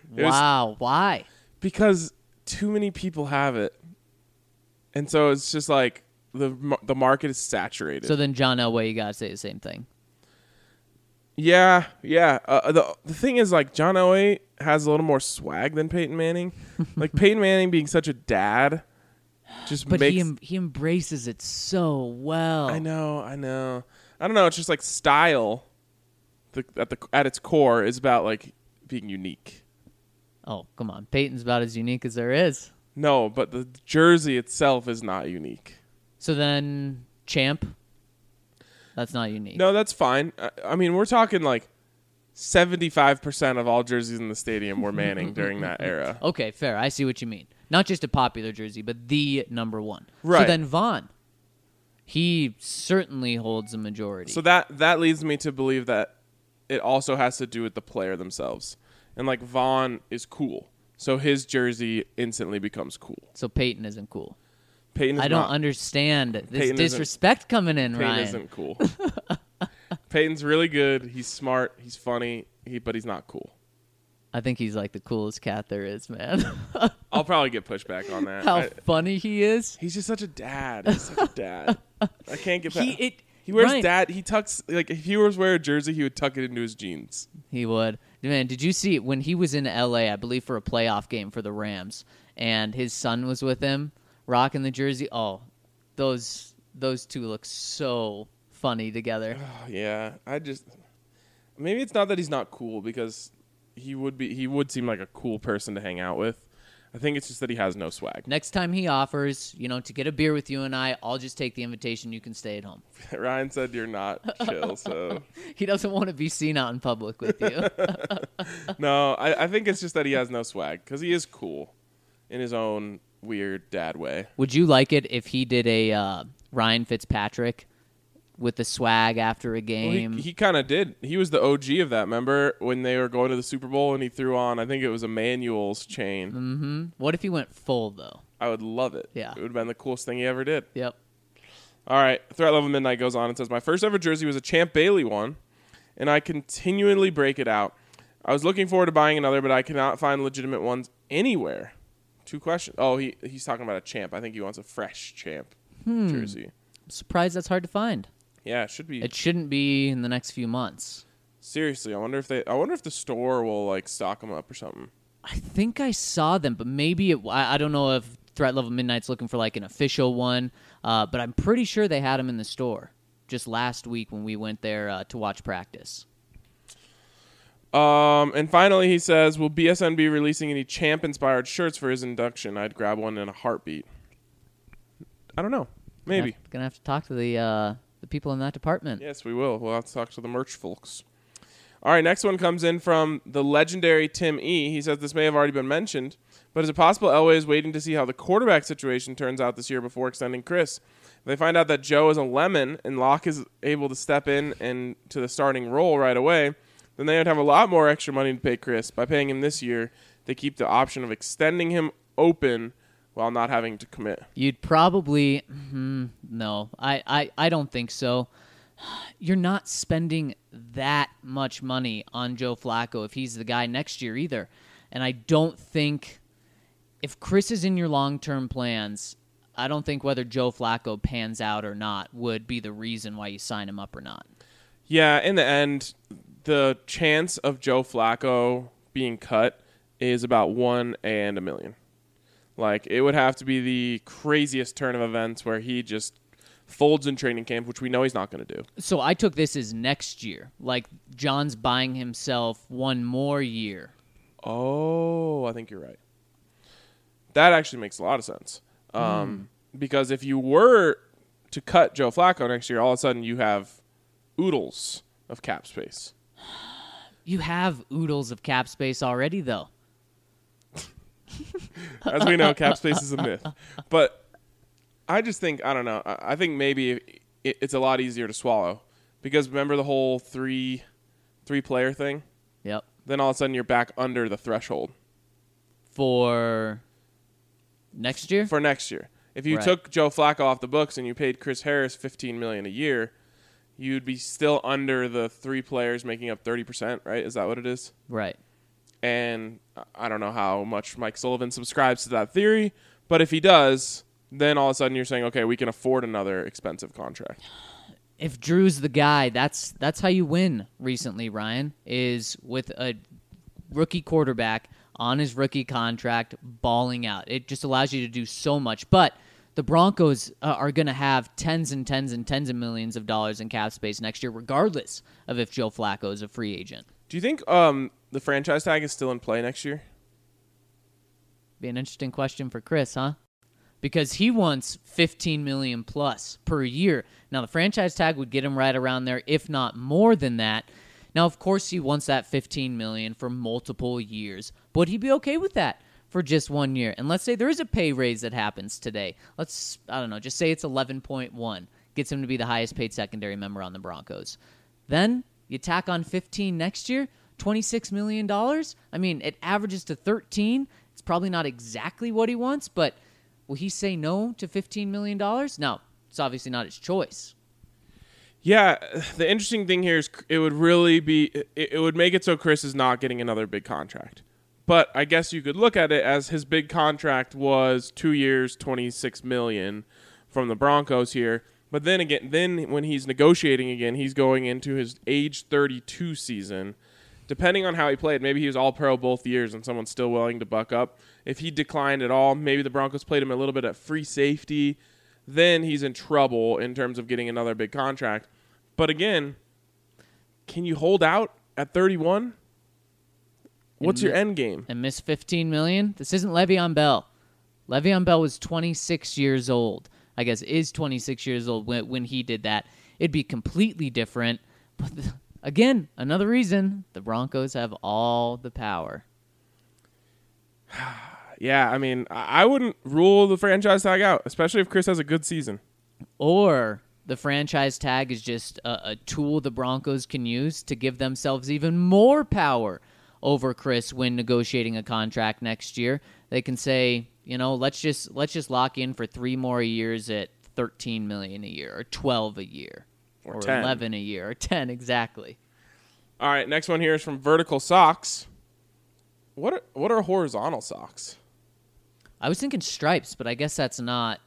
Why? Because too many people have it. And so it's just like the market is saturated. So then John Elway, you got to say the same thing. Yeah. The thing is, like, John Elway has a little more swag than Peyton Manning. Like, Peyton Manning being such a dad just but makes... he embraces it so well. I know. I don't know. It's just like style at its core is about, like, being unique. Oh, come on. Peyton's about as unique as there is. No, but the jersey itself is not unique. So then Champ? That's not unique. No, that's fine. I mean, we're talking like 75% of all jerseys in the stadium were Manning during that era. Okay, fair. I see what you mean. Not just a popular jersey, but the number one. Right. So then Vaughn, he certainly holds a majority. So that leads me to believe that it also has to do with the player themselves. And like Vaughn is cool, so his jersey instantly becomes cool. So Peyton isn't cool. Peyton is I don't not. understand this Peyton disrespect coming in, Peyton Ryan. isn't cool. Peyton's really good. He's smart. He's funny. But he's not cool. I think he's like the coolest cat there is, man. I'll probably get pushback on that. How funny he is. He's just such a dad. He's such a dad. I can't get past. He wears Ryan, dad. He tucks, like, if he was wear a jersey, he would tuck it into his jeans. He would. Man, did you see when he was in L.A., I believe, for a playoff game for the Rams, and his son was with him, rocking the jersey? Oh, those two look so funny together. Oh, yeah. Maybe it's not that he's not cool, because he would seem like a cool person to hang out with. I think it's just that he has no swag. Next time he offers, to get a beer with you and I'll just take the invitation. You can stay at home. Ryan said you're not chill, so... He doesn't want to be seen out in public with you. No, I think it's just that he has no swag, because he is cool in his own weird dad way. Would you like it if he did a Ryan Fitzpatrick with the swag after a game? Well, he kind of did. He was the OG of that. Remember when they were going to the Super Bowl and he threw on, I think it was Emmanuel's chain. Mm-hmm. What if he went full, though? I would love it. Yeah. It would have been the coolest thing he ever did. Yep. All right. Threat Level Midnight goes on and says, my first ever jersey was a Champ Bailey one, and I continually break it out. I was looking forward to buying another, but I cannot find legitimate ones anywhere. 2 questions. Oh, he's talking about a Champ. I think he wants a fresh Champ jersey. I'm surprised that's hard to find. Yeah, it should be. It shouldn't be in the next few months. Seriously, I wonder if the store will like stock them up or something. I think I saw them, but maybe I don't know if Threat Level Midnight's looking for like an official one, but I'm pretty sure they had them in the store just last week when we went there to watch practice. And finally, he says, will BSN be releasing any Champ-inspired shirts for his induction? I'd grab one in a heartbeat. I don't know. Maybe. Gonna have to talk to the people in that department. Yes, we will. We'll have to talk to the merch folks. All right, next one comes in from the legendary Tim E. He says this may have already been mentioned, but is it possible Elway is waiting to see how the quarterback situation turns out this year before extending Chris? If they find out that Joe is a lemon and Locke is able to step in and to the starting role right away, then they would have a lot more extra money to pay Chris. By paying him this year, they keep the option of extending him open while not having to commit. You'd probably no. I don't think so. You're not spending that much money on Joe Flacco if he's the guy next year either. And I don't think if Chris is in your long-term plans, I don't think whether Joe Flacco pans out or not would be the reason why you sign him up or not. Yeah, in the end, the chance of Joe Flacco being cut is about 1 in a million. Like, it would have to be the craziest turn of events where he just folds in training camp, which we know he's not going to do. So I took this as next year. Like, John's buying himself one more year. Oh, I think you're right. That actually makes a lot of sense. Because if you were to cut Joe Flacco next year, all of a sudden you have oodles of cap space. You have oodles of cap space already, though. As we know, cap space is a myth. But I just think, I don't know, I think maybe it's a lot easier to swallow. Because remember the whole three-player thing? Yep. Then all of a sudden you're back under the threshold. For next year? For next year. If you Right. took Joe Flacco off the books and you paid Chris Harris $15 million a year, you'd be still under the 3 players making up 30%, right? Is that what it is? Right. And I don't know how much Mike Sullivan subscribes to that theory, but if he does, then all of a sudden you're saying, okay, we can afford another expensive contract. If Drew's the guy, that's how you win recently, Ryan, is with a rookie quarterback on his rookie contract balling out. It just allows you to do so much. But the Broncos are going to have tens and tens and tens of millions of dollars in cap space next year, regardless of if Joe Flacco is a free agent. Do you think the franchise tag is still in play next year? Be an interesting question for Chris, huh? Because he wants $15 million plus per year. Now, the franchise tag would get him right around there, if not more than that. Now, of course, he wants that $15 million for multiple years. But would he be okay with that for just 1 year? And let's say there is a pay raise that happens today. Let's, I don't know, just say it's 11.1. Gets him to be the highest paid secondary member on the Broncos. Then you tack on 15 next year, $26 million. I mean, it averages to 13. It's probably not exactly what he wants, but will he say no to $15 million? No, it's obviously not his choice. Yeah, the interesting thing here is it would really be it would make it so Chris is not getting another big contract. But I guess you could look at it as his big contract was 2 years, $26 million from the Broncos here. But then again, when he's negotiating again, he's going into his age 32 season. Depending on how he played, maybe he was all-pro both years and someone's still willing to buck up. If he declined at all, maybe the Broncos played him a little bit at free safety. Then he's in trouble in terms of getting another big contract. But again, can you hold out at 31? What's your end game? And miss $15 million? This isn't Le'Veon Bell. Le'Veon Bell was 26 years old. I guess is 26 years old when he did that. It'd be completely different. But again, another reason the Broncos have all the power. Yeah, I mean, I wouldn't rule the franchise tag out, especially if Chris has a good season. Or the franchise tag is just a tool the Broncos can use to give themselves even more power over Chris when negotiating a contract next year. They can say, you know, let's just lock in for 3 more years at $13 million a year, or 12 a year, or 10. 11 a year, or 10 exactly. All right, next one here is from Vertical Socks. What are horizontal socks? I was thinking stripes, but I guess that's not.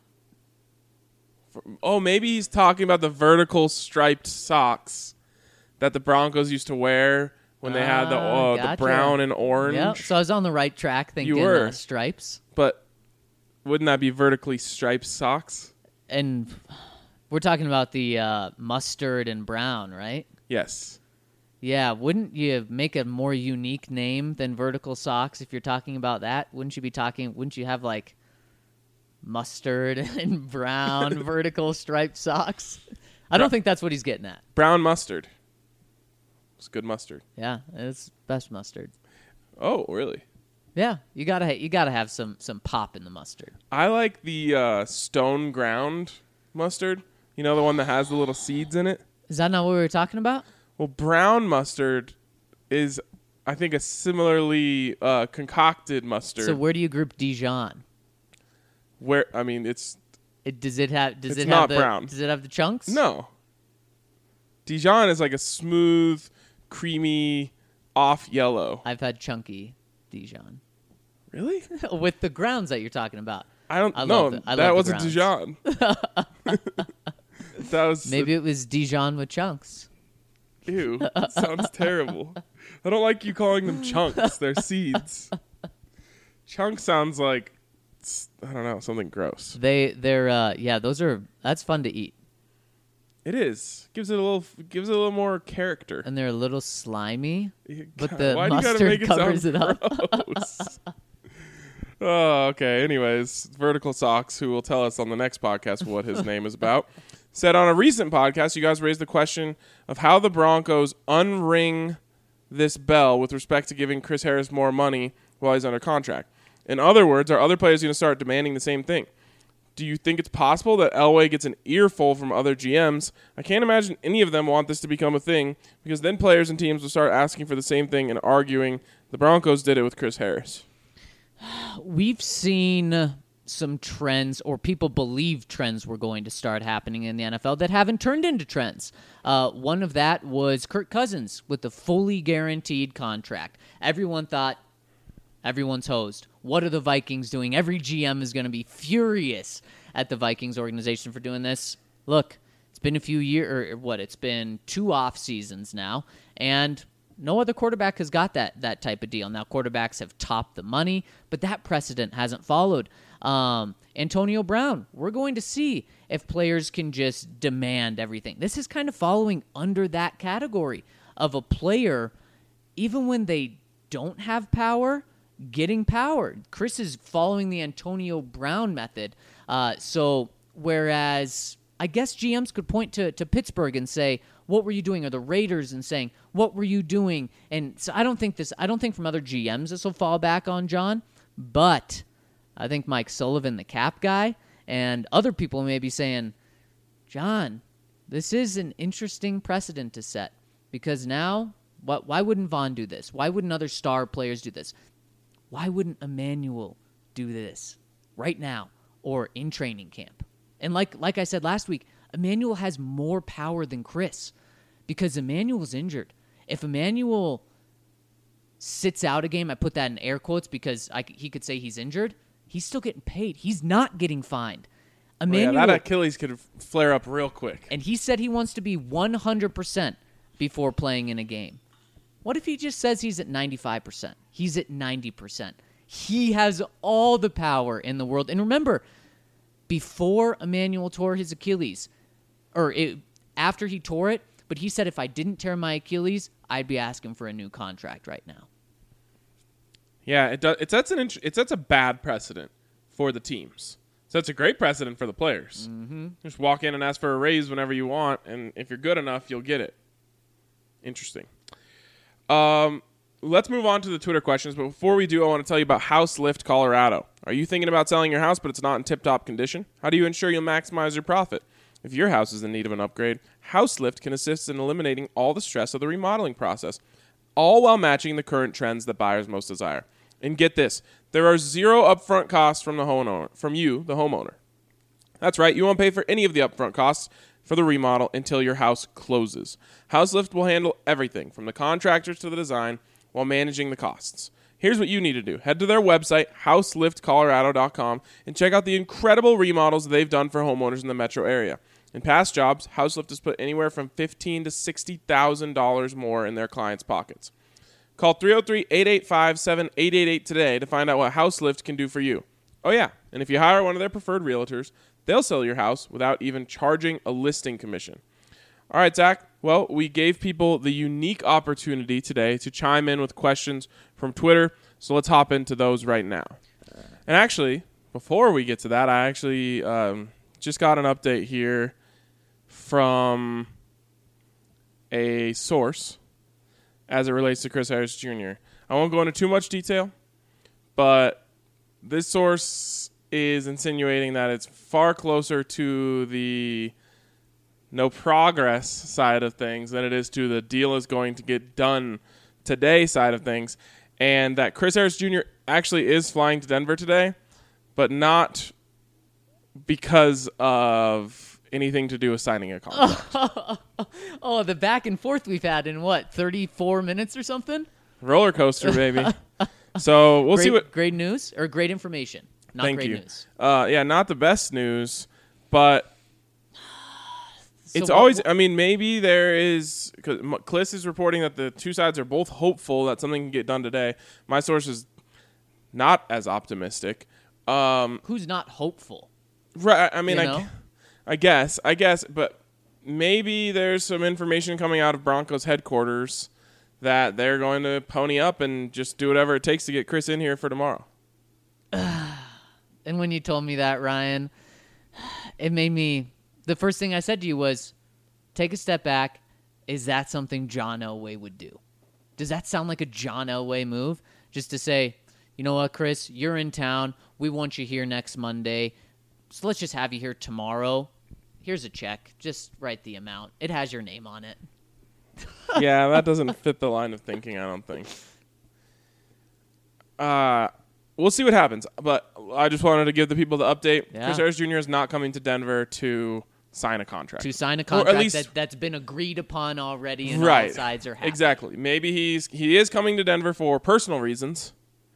Oh, maybe he's talking about the vertical striped socks that the Broncos used to wear when they had the gotcha. brown and orange. Yep. So I was on the right track thinking You were. stripes. But wouldn't that be vertically striped socks? And we're talking about the mustard and brown, right? Yes. Yeah, wouldn't you make a more unique name than vertical socks if you're talking about that? Wouldn't you have like mustard and brown vertical striped socks? I don't think that's what he's getting at. Brown mustard. It's good mustard. Yeah, it's best mustard. Oh, really? Yeah, you gotta have some pop in the mustard. I like the stone ground mustard. You know, the one that has the little seeds in it? Is that not what we were talking about? Well, brown mustard is, I think, a similarly concocted mustard. So where do you group Dijon? Where, I mean, it's... Does it have not the, brown. Does it have the chunks? No. Dijon is like a smooth, creamy, off yellow. I've had chunky Dijon. Really? With the grounds that you're talking about. I don't I know. love the That wasn't grounds. Dijon. That was... Maybe it was Dijon with chunks. Ew. That sounds terrible. I don't like you calling them chunks. They're seeds. Chunk sounds like, I don't know, something gross. That's fun to eat. It is. Gives it a little more character. And they're a little slimy, but God, the why do you gotta mustard make it covers sound it up. gross? Oh, okay. Anyways, Vertical Socks, who will tell us on the next podcast what his name is about, said on a recent podcast, you guys raised the question of how the Broncos unring this bell with respect to giving Chris Harris more money while he's under contract. In other words, are other players going to start demanding the same thing? Do you think it's possible that Elway gets an earful from other GMs? I can't imagine any of them want this to become a thing, because then players and teams will start asking for the same thing and arguing. The Broncos did it with Chris Harris. We've seen some trends, or people believe trends were going to start happening in the NFL that haven't turned into trends. One of that was Kirk Cousins with the fully guaranteed contract. Everyone thought, everyone's hosed. What are the Vikings doing? Every GM is going to be furious at the Vikings organization for doing this. Look, it's been a few years, it's been 2 off seasons now, and no other quarterback has got that type of deal. Now, quarterbacks have topped the money, but that precedent hasn't followed. Antonio Brown, we're going to see if players can just demand everything. This is kind of following under that category of a player, even when they don't have power, getting power. Chris is following the Antonio Brown method. So whereas I guess GMs could point to Pittsburgh and say, what were you doing? Or the Raiders and saying, what were you doing? And so I don't think from other GMs this will fall back on John, but I think Mike Sullivan, the cap guy, and other people may be saying, John, this is an interesting precedent to set, because now, why wouldn't Vaughn do this? Why wouldn't other star players do this? Why wouldn't Emmanuel do this right now or in training camp? And like I said last week, Emmanuel has more power than Chris because Emmanuel's injured. If Emmanuel sits out a game, I put that in air quotes because he could say he's injured, he's still getting paid. He's not getting fined. Emmanuel, that Achilles could flare up real quick. And he said he wants to be 100% before playing in a game. What if he just says he's at 95%? He's at 90%. He has all the power in the world. And remember, before Emmanuel tore his Achilles, after he tore it, but he said if I didn't tear my Achilles, I'd be asking for a new contract right now. Yeah, it does. It sets a bad precedent for the teams. So it's a great precedent for the players. Mm-hmm. Just walk in and ask for a raise whenever you want, and if you're good enough, you'll get it. Interesting. Let's move on to the Twitter questions, but before we do, I want to tell you about House Lift Colorado. Are you thinking about selling your house, but it's not in tip-top condition? How do you ensure you'll maximize your profit? If your house is in need of an upgrade, House Lift can assist in eliminating all the stress of the remodeling process, all while matching the current trends that buyers most desire. And get this, there are 0 upfront costs from the homeowner. That's right, you won't pay for any of the upfront costs for the remodel until your house closes. House Lift will handle everything from the contractors to the design while managing the costs. Here's what you need to do. Head to their website, houseliftcolorado.com, and check out the incredible remodels they've done for homeowners in the metro area. In past jobs, House Lift has put anywhere from $15,000 to $60,000 more in their clients' pockets. Call 303-885-7888 today to find out what House Lift can do for you. Oh yeah, and if you hire one of their preferred realtors, they'll sell your house without even charging a listing commission. All right, Zach. Well, we gave people the unique opportunity today to chime in with questions from Twitter, so let's hop into those right now. And actually, before we get to that, I actually just got an update here from a source as it relates to Chris Harris Jr. I won't go into too much detail, but this source is insinuating that it's far closer to the no progress side of things than it is to the deal is going to get done today side of things, and that Chris Harris Jr. actually is flying to Denver today, but not because of anything to do with signing a contract. Oh, the back and forth we've had in 34 minutes or something? Roller coaster, baby. So we'll see what. Great news or great information? Not Thank great you. news. Yeah, not the best news, but So it's what- always. I mean, maybe there is. Because Kliss is reporting that the two sides are both hopeful that something can get done today. My source is not as optimistic. Who's not hopeful? Right. I mean, You know? I guess, but maybe there's some information coming out of Broncos headquarters that they're going to pony up and just do whatever it takes to get Chris in here for tomorrow. And when you told me that, Ryan, it made me. The first thing I said to you was, take a step back. Is that something John Elway would do? Does that sound like a John Elway move? Just to say, you know what, Chris, you're in town. We want you here next Monday. So let's just have you here tomorrow. Here's a check. Just write the amount. It has your name on it. Yeah, that doesn't fit the line of thinking, I don't think. We'll see what happens, but I just wanted to give the people the update. Yeah. Chris Harris Jr. is not coming to Denver to sign a contract. To sign a Or at contract least- that's been agreed upon already and all Right. sides are happy. Exactly. Maybe he is coming to Denver for personal reasons,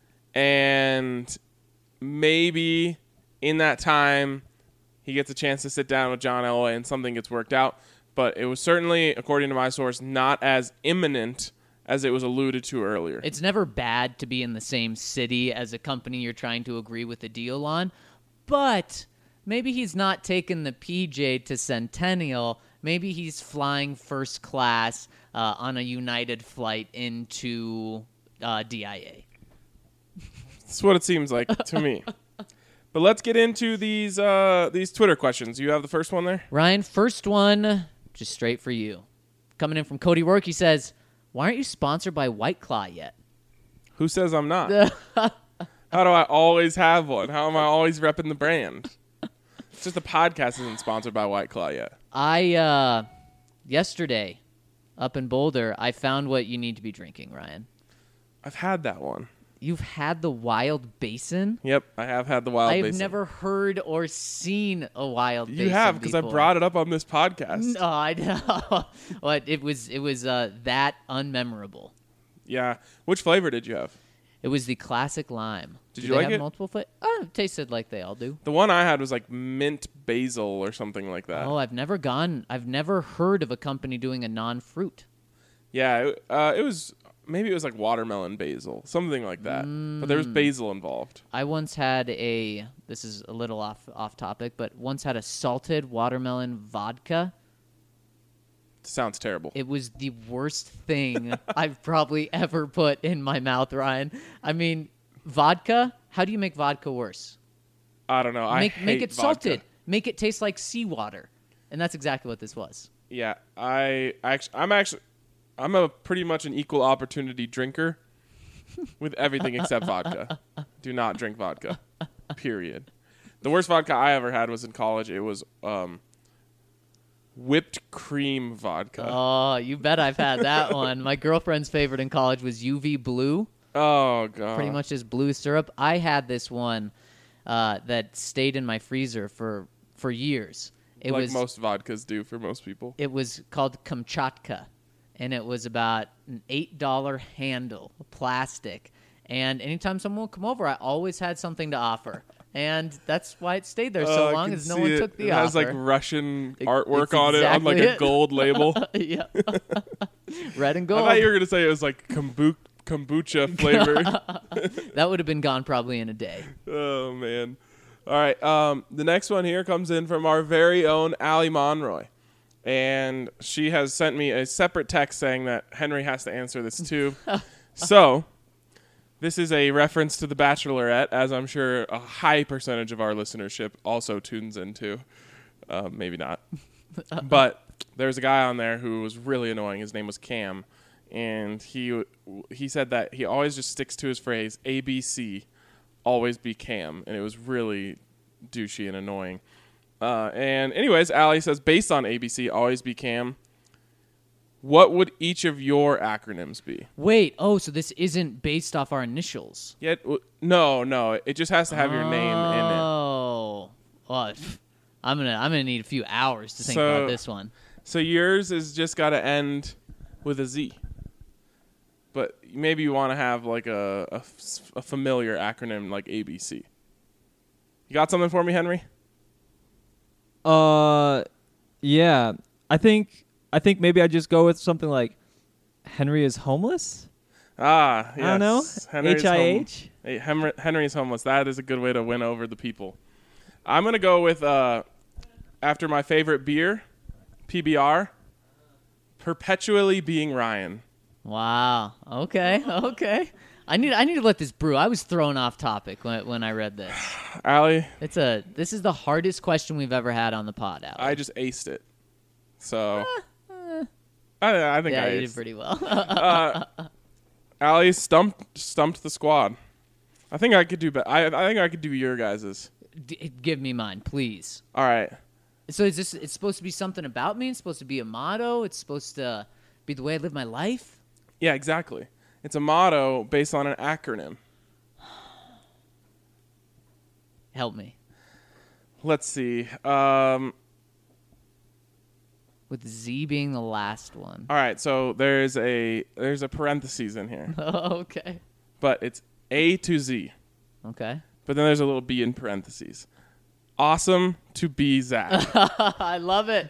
and maybe in that time he gets a chance to sit down with John Elway and something gets worked out. But it was certainly, according to my source, not as imminent as it was alluded to earlier. It's never bad to be in the same city as a company you're trying to agree with a deal on, but maybe he's not taking the PJ to Centennial. Maybe he's flying first class on a United flight into DIA. That's what it seems like to me. But let's get into these Twitter questions. You have the first one there? Ryan, first one, just straight for you. Coming in from Cody Work, he says, why aren't you sponsored by White Claw yet? Who says I'm not? How do I always have one? How am I always repping the brand? It's just the podcast isn't sponsored by White Claw yet. I, yesterday, up in Boulder, I found what you need to be drinking, Ryan. I've had that one. You've had the Wild Basin? Yep, I have had the Wild I've Basin. never heard or seen a Wild Basin. You have, because I before. brought it up on this podcast. No, I know. But it was that unmemorable. Yeah. Which flavor did you have? It was the classic lime. Did Do you they like have it? multiple flavors? Oh, it tasted like they all do. The one I had was like mint basil or something like that. Oh, I've never heard of a company doing a non-fruit. Yeah, it was, maybe it was like watermelon basil, something like that. But there was basil involved. I once had this is a little off topic, but once had a salted watermelon vodka. Sounds terrible. It was the worst thing I've probably ever put in my mouth, Ryan. I mean, vodka, how do you make vodka worse? I don't know. I Make hate it vodka. salted. Make it taste like seawater. And that's exactly what this was. Yeah, I'm a pretty much an equal opportunity drinker with everything except vodka. Do not drink vodka. Period. The worst vodka I ever had was in college. It was whipped cream vodka. Oh, you bet I've had that one. My girlfriend's favorite in college was UV Blue. Oh god. Pretty much just blue syrup. I had this one that stayed in my freezer for years. It like was most vodkas do for most people. It was called Kamchatka, and it was about an $8 handle, plastic. And anytime someone would come over, I always had something to offer. And that's why it stayed there so I long can as no see one it. took the It offer. has like Russian artwork it's on it on like exactly a it. gold label. Yeah. Red and I gold. thought you were gonna say it was like kombucha flavored. That would have been gone probably in a day. Oh man. All right. The next one here comes in from our very own Allie Monroy. And she has sent me a separate text saying that Henry has to answer this too. So, this is a reference to The Bachelorette, as I'm sure a high percentage of our listenership also tunes into. Maybe not. But there's a guy on there who was really annoying. His name was Cam. and he said that he always just sticks to his phrase ABC, always be Cam, and it was really douchey and annoying. And anyways, Allie says, based on ABC, always be Cam, what would each of your acronyms be? Wait, so this isn't based off our initials? No, it just has to have your name in it. Oh, well, I'm gonna need a few hours to think about this one. So yours is just got to end with a Z. But maybe you want to have like a familiar acronym like ABC. You got something for me, Henry? Yeah. I think maybe I just go with something like Henry is homeless. Ah, yes. I don't know. HIH. Henry is homeless. That is a good way to win over the people. I'm gonna go with after my favorite beer, PBR, perpetually being Ryan. Wow. Okay. I need to let this brew. I was thrown off topic when I read this. Allie, This is the hardest question we've ever had on the pod, Allie. I just aced it. So I think I you aced. did pretty well. Allie stumped the squad. I think I could do better. I think I could do your guys's. Give me mine, please. All right. So it's supposed to be something about me? It's supposed to be a motto? It's supposed to be the way I live my life? Yeah, exactly. It's a motto based on an acronym. Help me. Let's see. With Z being the last one. All right, so there's a parentheses in here, Okay. but it's A to Z. Okay. But then there's a little B in parentheses. Awesome to be Zach. I love it.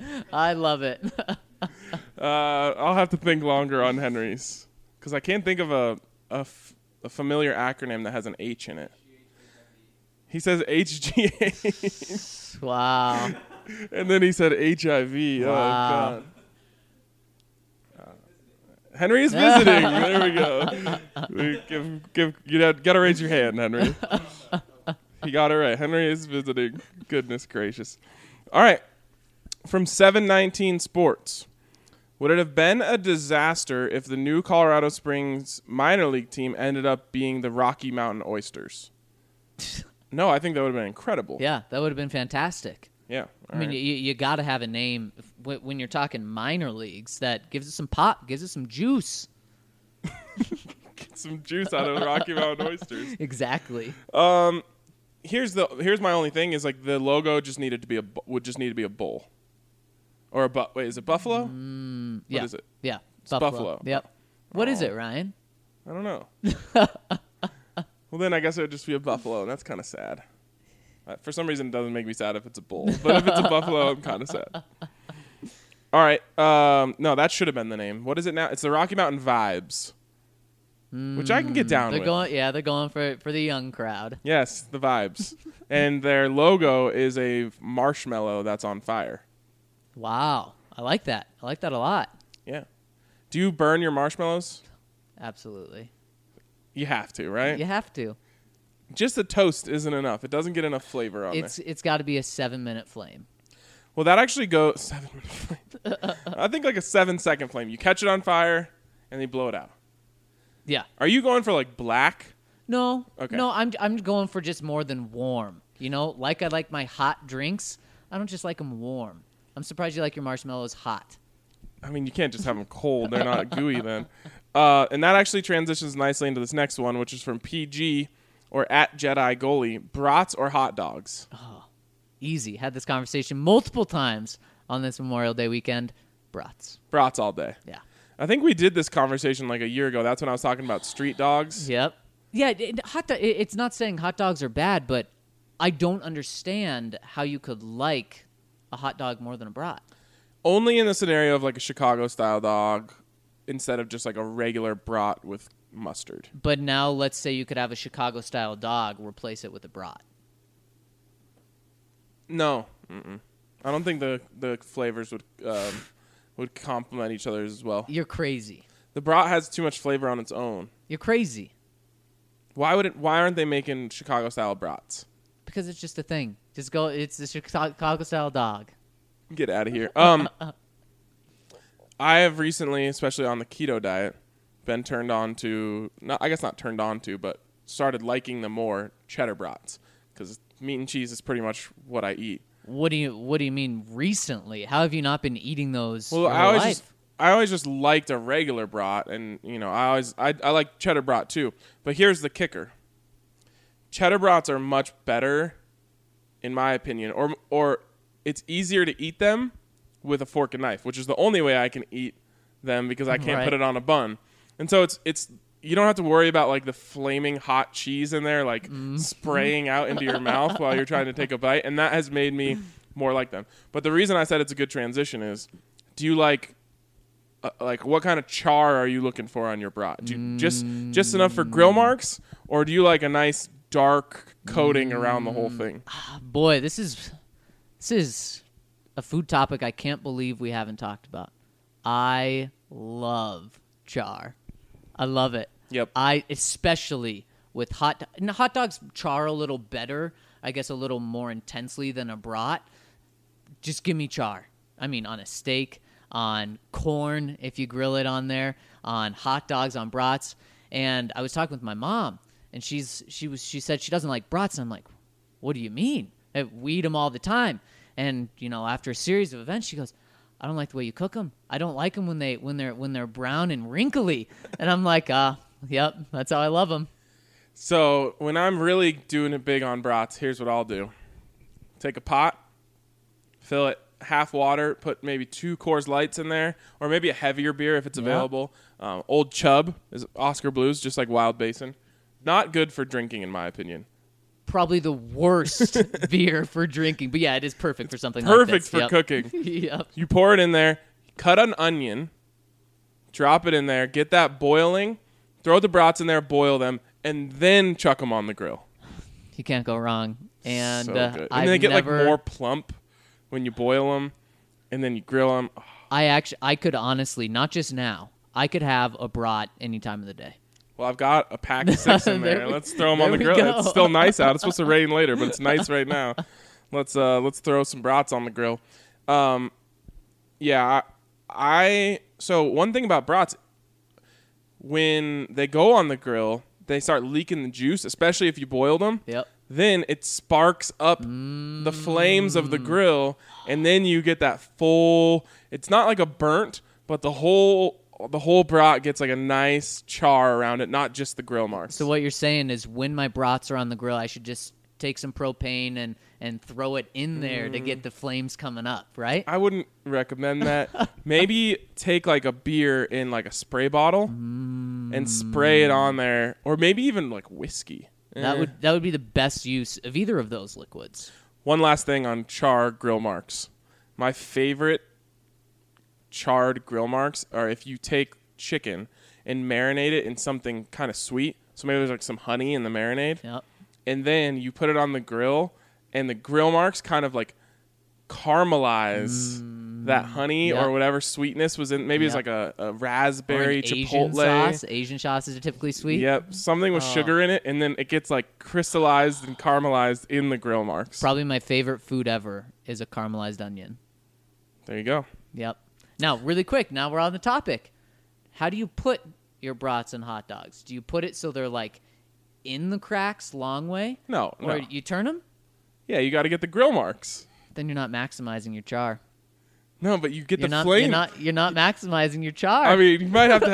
I'll have to think longer on Henry's because I can't think of a familiar acronym that has an H in it. He says HGH. Wow. And then he said HIV. Wow. Oh, God. Henry is visiting. There we go. You got to raise your hand, Henry. He got it right. Henry is visiting. Goodness gracious. All right. From 719 Sports. Would it have been a disaster if the new Colorado Springs minor league team ended up being the Rocky Mountain Oysters? No, I think that would have been incredible. Yeah, that would have been fantastic. Yeah. I mean, you got to have a name when you're talking minor leagues that gives it some pop, gives it some juice. Get some juice out of the Rocky Mountain Oysters. Exactly. Here's my only thing is like the logo would just need to be a bull. Or wait, is it buffalo? Yeah. What is it? Yeah. It's buffalo. Yep. What is it, Ryan? I don't know. Well, then I guess it would just be a buffalo, and that's kind of sad. For some reason, it doesn't make me sad if it's a bull. But if it's a buffalo, I'm kind of sad. All right. No, that should have been the name. What is it now? It's the Rocky Mountain Vibes, which I can get down with. They're going for the young crowd. Yes, the Vibes. And their logo is a marshmallow that's on fire. Wow. I like that. I like that a lot. Yeah. Do you burn your marshmallows? Absolutely. You have to, right? You have to. Just the toast isn't enough. It doesn't get enough flavor on there. It's got to be a 7-minute flame. Well, that actually goes 7-minute flame. I think like a 7-second flame. You catch it on fire and you blow it out. Yeah. Are you going for like black? No. Okay. No, I'm going for just more than warm. You know, like I like my hot drinks. I don't just like them warm. I'm surprised you like your marshmallows hot. I mean, you can't just have them cold. They're not gooey then. And that actually transitions nicely into this next one, which is from PG or at Jedi Goalie. Brats or hot dogs? Oh, easy. Had this conversation multiple times on this Memorial Day weekend. Brats. Brats all day. Yeah. I think we did this conversation like a year ago. That's when I was talking about street dogs. Yep. Yeah, it's not saying hot dogs are bad, but I don't understand how you could like a hot dog more than a brat. Only in the scenario of like a Chicago-style dog instead of just like a regular brat with mustard. But now let's say you could have a Chicago-style dog, replace it with a brat. No. Mm-mm. I don't think the flavors would complement each other as well. You're crazy. The brat has too much flavor on its own. You're crazy. Why aren't they making Chicago-style brats? Because it's just a thing. Just go. It's a Chicago-style dog. Get out of here. I have recently, especially on the keto diet, been turned on to, I guess not turned on to, but started liking them more, cheddar brats, because meat and cheese is pretty much what I eat. What do you mean recently? How have you not been eating those? Well, your I whole always life? I always just liked a regular brat, and I like cheddar brat too. But here's the kicker: cheddar brats are much better, in my opinion, or it's easier to eat them with a fork and knife, which is the only way I can eat them because I can't Right. put it on a bun. And so it's you don't have to worry about like the flaming hot cheese in there like spraying out into your mouth while you're trying to take a bite, and that has made me more like them. But the reason I said it's a good transition is, do you like what kind of char are you looking for on your brat? Do you just enough for grill marks, or do you like a nice dark coating around the whole thing? Boy, this is a food topic I can't believe we haven't talked about. I love char. I love it. Yep. Especially with hot dogs char a little better, I guess a little more intensely than a brat. Just give me char. I mean, on a steak, on corn, if you grill it on there, on hot dogs, on brats. And I was talking with my mom, and she said she doesn't like brats. And I'm like, what do you mean? We eat them all the time. And after a series of events, she goes, I don't like the way you cook them. I don't like them when they're brown and wrinkly. And I'm like, yep, that's how I love them. So when I'm really doing it big on brats, here's what I'll do: take a pot, fill it half water, put maybe 2 Coors Lights in there, or maybe a heavier beer if it's available. Old Chub is Oscar Blues, just like Wild Basin. Not good for drinking, in my opinion. Probably the worst beer for drinking. But yeah, it is perfect for something Perfect like this. for cooking. Yep. You pour it in there, cut an onion, drop it in there, get that boiling, throw the brats in there, boil them, and then chuck them on the grill. You can't go wrong. And So good. I've And they get never, like more plump when you boil them, and then you grill them. Oh, I could honestly, not just now, I could have a brat any time of the day. well, I've got a pack of 6 in there. Let's throw them on the there we grill. go. It's still nice out. It's supposed to rain later, but it's nice right now. Let's throw some brats on the grill. So one thing about brats, when they go on the grill, they start leaking the juice, especially if you boiled them. Yep. Then it sparks up the flames of the grill, and then you get that full. It's not like a burnt, but the whole brat gets like a nice char around it, not just the grill marks. So what you're saying is when my brats are on the grill, I should just take some propane and throw it in there to get the flames coming up, right? I wouldn't recommend that. Maybe take like a beer in like a spray bottle and spray it on there, or maybe even like whiskey. That would be the best use of either of those liquids. One last thing on char grill marks. My favorite charred grill marks are if you take chicken and marinate it in something kind of sweet. So maybe there's like some honey in the marinade. Yep. And then you put it on the grill, and the grill marks kind of like caramelize that honey Yep. or whatever sweetness was in. Maybe it's Yep. like a Or raspberry an Asian chipotle. sauce. Asian sauces are typically sweet. Yep, something with sugar in it, and then it gets like crystallized and caramelized in the grill marks. Probably my favorite food ever is a caramelized onion. There you go. Yep. Now, really quick, now we're on the topic. How do you put your brats and hot dogs? Do you put it so they're like in the cracks long way? No. Or you turn them? Yeah, you got to get the grill marks. Then you're not maximizing your char. No, but you get You're the not, flame. you're not maximizing your char. I mean, you might have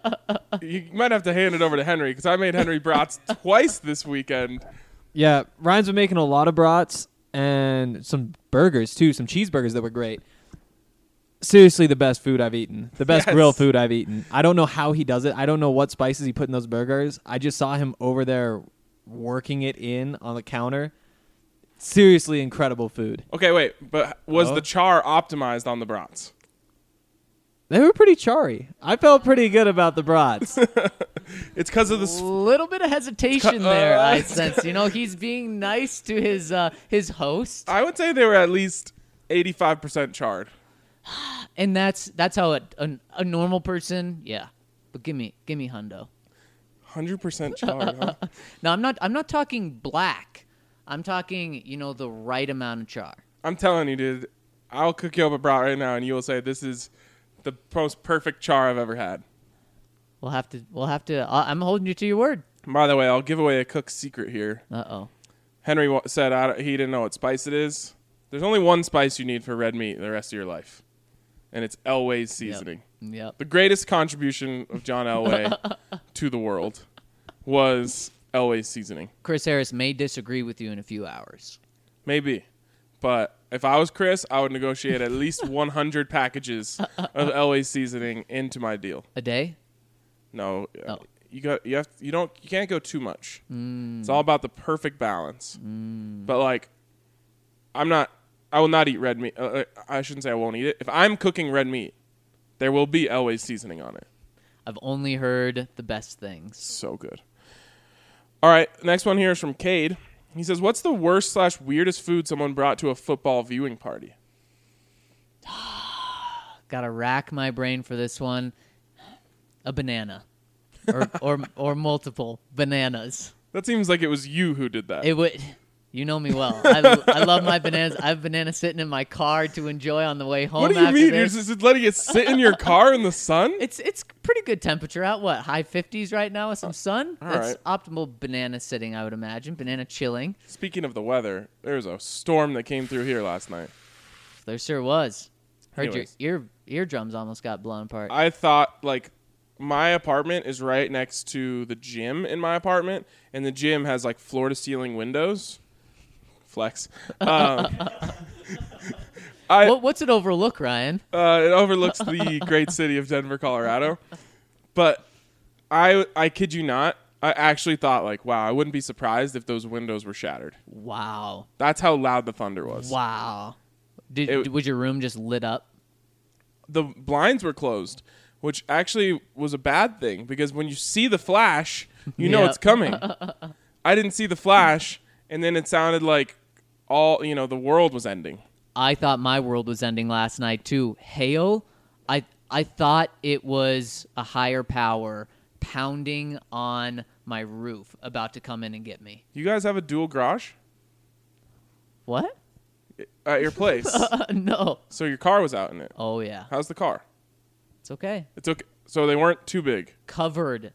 to hand it over to Henry, because I made Henry brats twice this weekend. Yeah, Ryan's been making a lot of brats and some burgers too, some cheeseburgers that were great. Seriously, the best food I've eaten. The best Yes. grill food I've eaten. I don't know how he does it. I don't know what spices he put in those burgers. I just saw him over there working it in on the counter. Seriously incredible food. Okay, wait, but was Oh. the char optimized on the brats? They were pretty charry. I felt pretty good about the brats. It's because of the. A little bit of hesitation there, I sense. He's being nice to his host, I would say they were at least 85% charred. and that's how a normal person, yeah. But give me hundo. 100% charred, huh? No, I'm not talking black. I'm talking, the right amount of char. I'm telling you, dude. I'll cook you up a brat right now, and you will say this is the most perfect char I've ever had. We'll have to. I'm holding you to your word. By the way, I'll give away a cook's secret here. Uh-oh. Henry said he didn't know what spice it is. There's only one spice you need for red meat the rest of your life, and it's Elway's seasoning. Yep. The greatest contribution of John Elway to the world was Elway's seasoning. Chris Harris may disagree with you in a few hours. Maybe. But if I was Chris, I would negotiate at least 100 packages of Elway's seasoning into my deal. A day? No. Oh. You can't go too much. It's all about the perfect balance. But like I will not eat red meat. I shouldn't say I won't eat it. If I'm cooking red meat, there will be Elway's seasoning on it. I've only heard the best things. So good. All right, next one here is from Cade. He says, "What's the worst / weirdest food someone brought to a football viewing party?" Gotta rack my brain for this one. A banana, or multiple bananas. That seems like it was you who did that. It would. You know me well. I love my bananas. I have bananas sitting in my car to enjoy on the way home. What do you after mean? this. You're just letting it sit in your car in the sun? It's pretty good temperature out. What, high 50s right now with some sun? all That's right. Optimal banana sitting, I would imagine. Banana chilling. Speaking of the weather, there was a storm that came through here last night. There sure was. Heard Anyways. your eardrums almost got blown apart. I thought, like, my apartment is right next to the gym in my apartment, and the gym has, like, floor-to-ceiling windows. Flex. What's it overlook, Ryan? It overlooks the great city of Denver, Colorado. But I kid you not, I actually thought, like, wow, I wouldn't be surprised if those windows were shattered. Wow. That's how loud the thunder was. Wow. Was your room just lit up? The blinds were closed, which actually was a bad thing because when you see the flash, you know Yep. it's coming. I didn't see the flash, and then it sounded like the world was ending. I thought my world was ending last night too. Hail, I thought it was a higher power pounding on my roof about to come in and get me. You guys have a dual garage What? at your place, No. so your car was out in it. Oh yeah. How's the car? It's okay. It's okay. So they weren't too big. Covered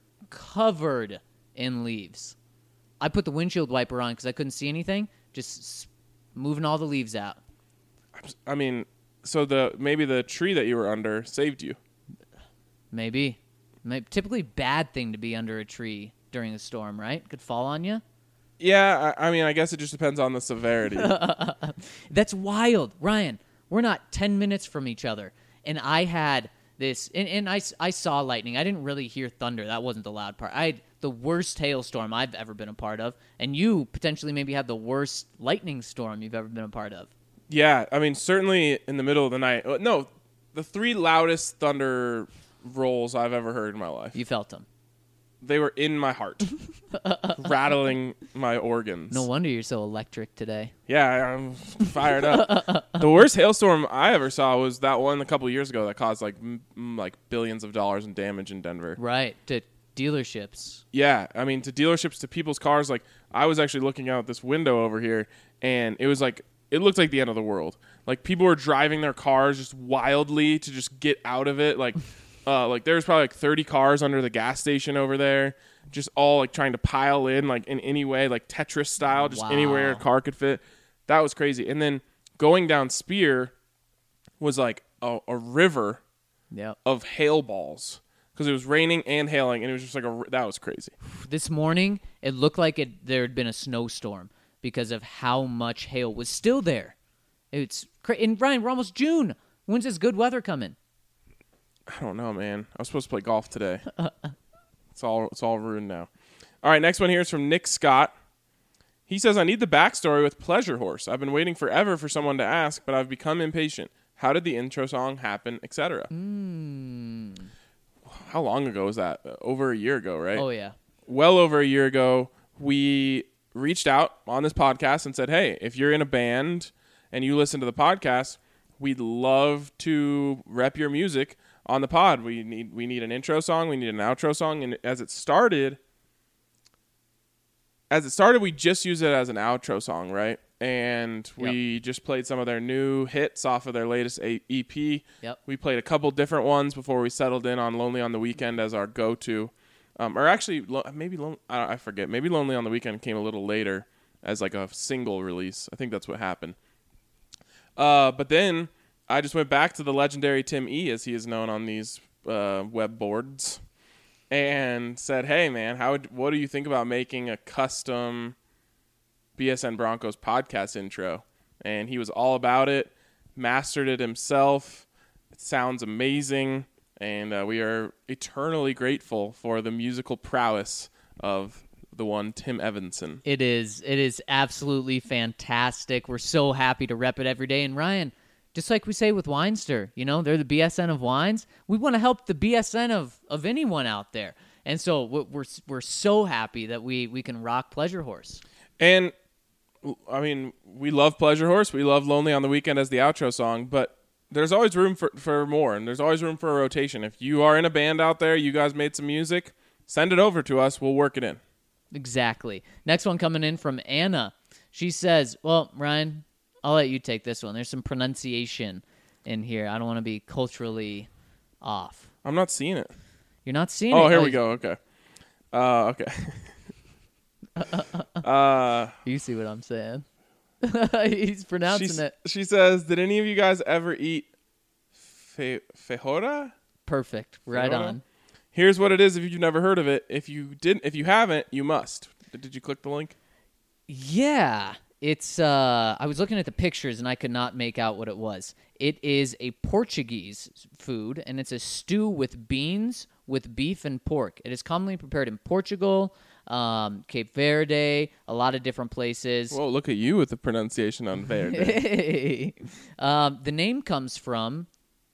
in leaves. I put the windshield wiper on because I couldn't see anything. Just moving all the leaves out. I mean, so maybe the tree that you were under saved you. Maybe. Typically bad thing to be under a tree during a storm, right? Could fall on you. Yeah, I mean, I guess it just depends on the severity. That's wild. Ryan, we're not 10 minutes from each other. And I had this, and I saw lightning. I didn't really hear thunder. That wasn't the loud part. I had the worst hailstorm I've ever been a part of. And you potentially maybe had the worst lightning storm you've ever been a part of. Yeah, I mean, certainly in the middle of the night. No, the 3 loudest thunder rolls I've ever heard in my life. You felt them. They were in my heart, rattling my organs. No wonder you're so electric today. Yeah, I'm fired up. The worst hailstorm I ever saw was that one a couple years ago that caused like billions of dollars in damage in Denver. Right, to dealerships. Yeah, I mean, to dealerships, to people's cars. Like, I was actually looking out this window over here, and it was like, it looked like the end of the world. Like, people were driving their cars just wildly to just get out of it. Like there was probably like 30 cars under the gas station over there, just all like trying to pile in, like in any way, like Tetris style, just anywhere a car could fit. That was crazy. And then going down Spear was like a river of hail balls because it was raining and hailing, and it was just like that was crazy. This morning, it looked like there had been a snowstorm because of how much hail was still there. It's and Ryan, we're almost June. When's this good weather coming? I don't know, man. I was supposed to play golf today. It's all ruined now. All right, next one here is from Nick Scott. He says, I need the backstory with Pleasure Horse. I've been waiting forever for someone to ask, but I've become impatient. How did the intro song happen, etc.? How long ago was that? Over a year ago, right? Oh, yeah. Well over a year ago, we reached out on this podcast and said, hey, if you're in a band and you listen to the podcast, we'd love to rep your music on the pod. We need an intro song, we need an outro song, and as it started, we just used it as an outro song, right? and we just played some of their new hits off of their latest EP. Yep. We played a couple different ones before we settled in on Lonely on the Weekend as our go-to. Or actually, I forget. Maybe Lonely on the Weekend came a little later as like a single release. I think that's what happened. But then I just went back to the legendary Tim E, as he is known on these web boards, and said, hey, man, what do you think about making a custom BSN Broncos podcast intro? And he was all about it, mastered it himself. It sounds amazing, and we are eternally grateful for the musical prowess of the one Tim Evanson. It is absolutely fantastic. We're so happy to rep it every day. And Ryan, just like we say with Winester, they're the BSN of wines. We want to help the BSN of anyone out there. And so we're so happy that we can rock Pleasure Horse. And I mean, we love Pleasure Horse. We love Lonely on the Weekend as the outro song, but there's always room for more, and there's always room for a rotation. If you are in a band out there, you guys made some music, send it over to us. We'll work it in. Exactly. Next one coming in from Anna. She says, well, Ryan, I'll let you take this one. There's some pronunciation in here. I don't want to be culturally off. I'm not seeing it. You're not seeing it? Oh, here we go. Okay. Okay. You see what I'm saying? He's pronouncing it. She says, did any of you guys ever eat feijoada? Perfect. Right Feijoada? on. Here's what it is if you've never heard of it. If you haven't, you must. Did you click the link? Yeah. It's I was looking at the pictures and I could not make out what it was. It is a Portuguese food, and it's a stew with beans, with beef and pork. It is commonly prepared in Portugal, Cape Verde, a lot of different places. Whoa, look at you with the pronunciation on Verde. Hey. The name comes from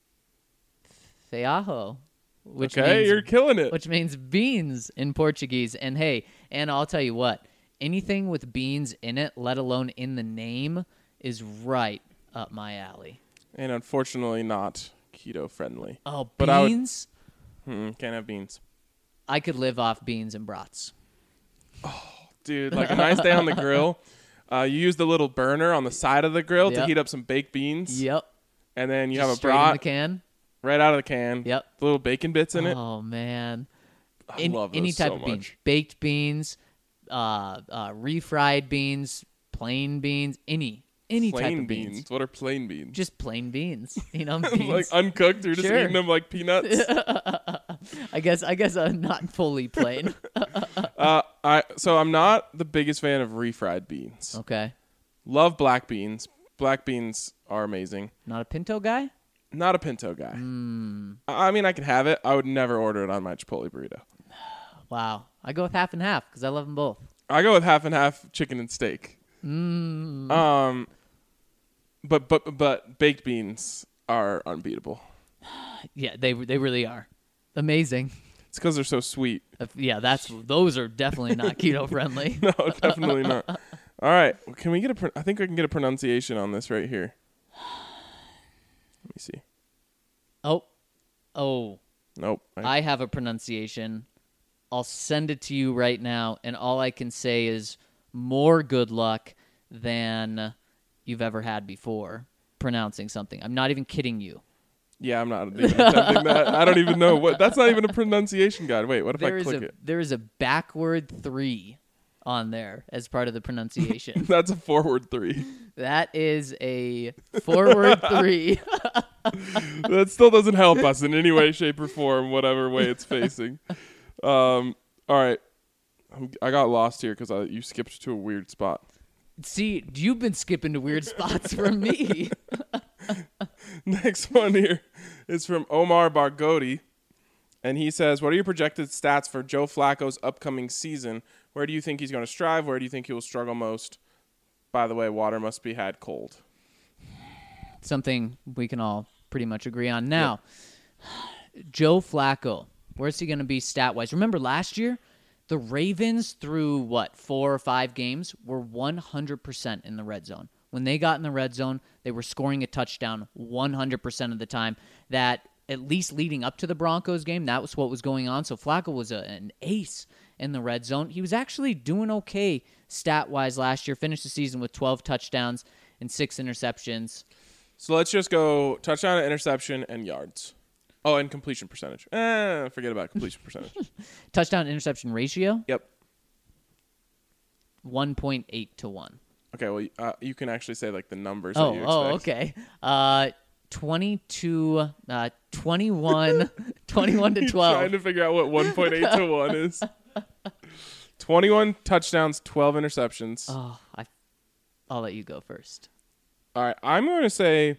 feijão, which means, you're killing it. which means beans in Portuguese. And hey, Anna, I'll tell you what, anything with beans in it, let alone in the name, is right up my alley. And unfortunately not keto friendly. Oh, But beans? Can't have beans. I could live off beans and brats. Dude, like a nice day on the grill. You use the little burner on the side of the grill to Yep. heat up some baked beans. Yep. And then you Just have a straight in brat the can. right out of the can. Yep. The little bacon bits in it. Oh, man. I love those any type so of bean. much. Baked beans, refried beans, plain beans, any type Plain of beans. beans. What are plain beans? Just plain beans. Beans. like uncooked. You're just Sure. eating them like peanuts. I guess I'm not fully plain. So I'm not the biggest fan of refried beans. Okay. Love black beans. Black beans are amazing. Not a pinto guy? Not a pinto guy. I mean, I could have it. I would never order it on my Chipotle burrito. Wow. I go with half and half because I love them both. I go with half and half chicken and steak. But baked beans are unbeatable. Yeah, they really are. Amazing. It's because they're so sweet. Yeah, those are definitely not keto friendly. No, definitely not. All right, can we get I think I can get a pronunciation on this right here. Let me see. Oh. Nope. I have a pronunciation. I'll send it to you right now, and all I can say is more good luck than you've ever had before pronouncing something. I'm not even kidding you. Yeah, I'm not even attempting that. I don't even know what. That's not even a pronunciation guide. Wait, what if I click it? There is a backward 3 on there as part of the pronunciation. That's a forward 3. That is a forward 3. That still doesn't help us in any way, shape, or form, whatever way it's facing. All right. I got lost here because you skipped to a weird spot. See, you've been skipping to weird spots from me. Next one here is from Omar Barghouti, and he says, what are your projected stats for Joe Flacco's upcoming season? Where do you think he's going to strive? Where do you think he will struggle most? By the way, water must be had cold. Something we can all pretty much agree on. Now, Joe Flacco, where's he going to be stat-wise? Remember last year, the Ravens through, 4 or 5 games, were 100% in the red zone. When they got in the red zone, they were scoring a touchdown 100% of the time. That, at least leading up to the Broncos game, that was what was going on. So Flacco was an ace. in the red zone. He was actually doing okay stat-wise last year. Finished the season with 12 touchdowns and 6 interceptions. So let's just go touchdown, interception, and yards. Oh, and completion percentage. Forget about completion percentage. Touchdown interception ratio, Yep. 1.8 to 1. Okay, well, you can actually say like the numbers that you expect. Okay. 22, 21, 21 to 12. Trying to figure out what 1.8 to 1 is. 21 touchdowns, 12 interceptions. Oh, I'll let you go first. All right, I'm going to say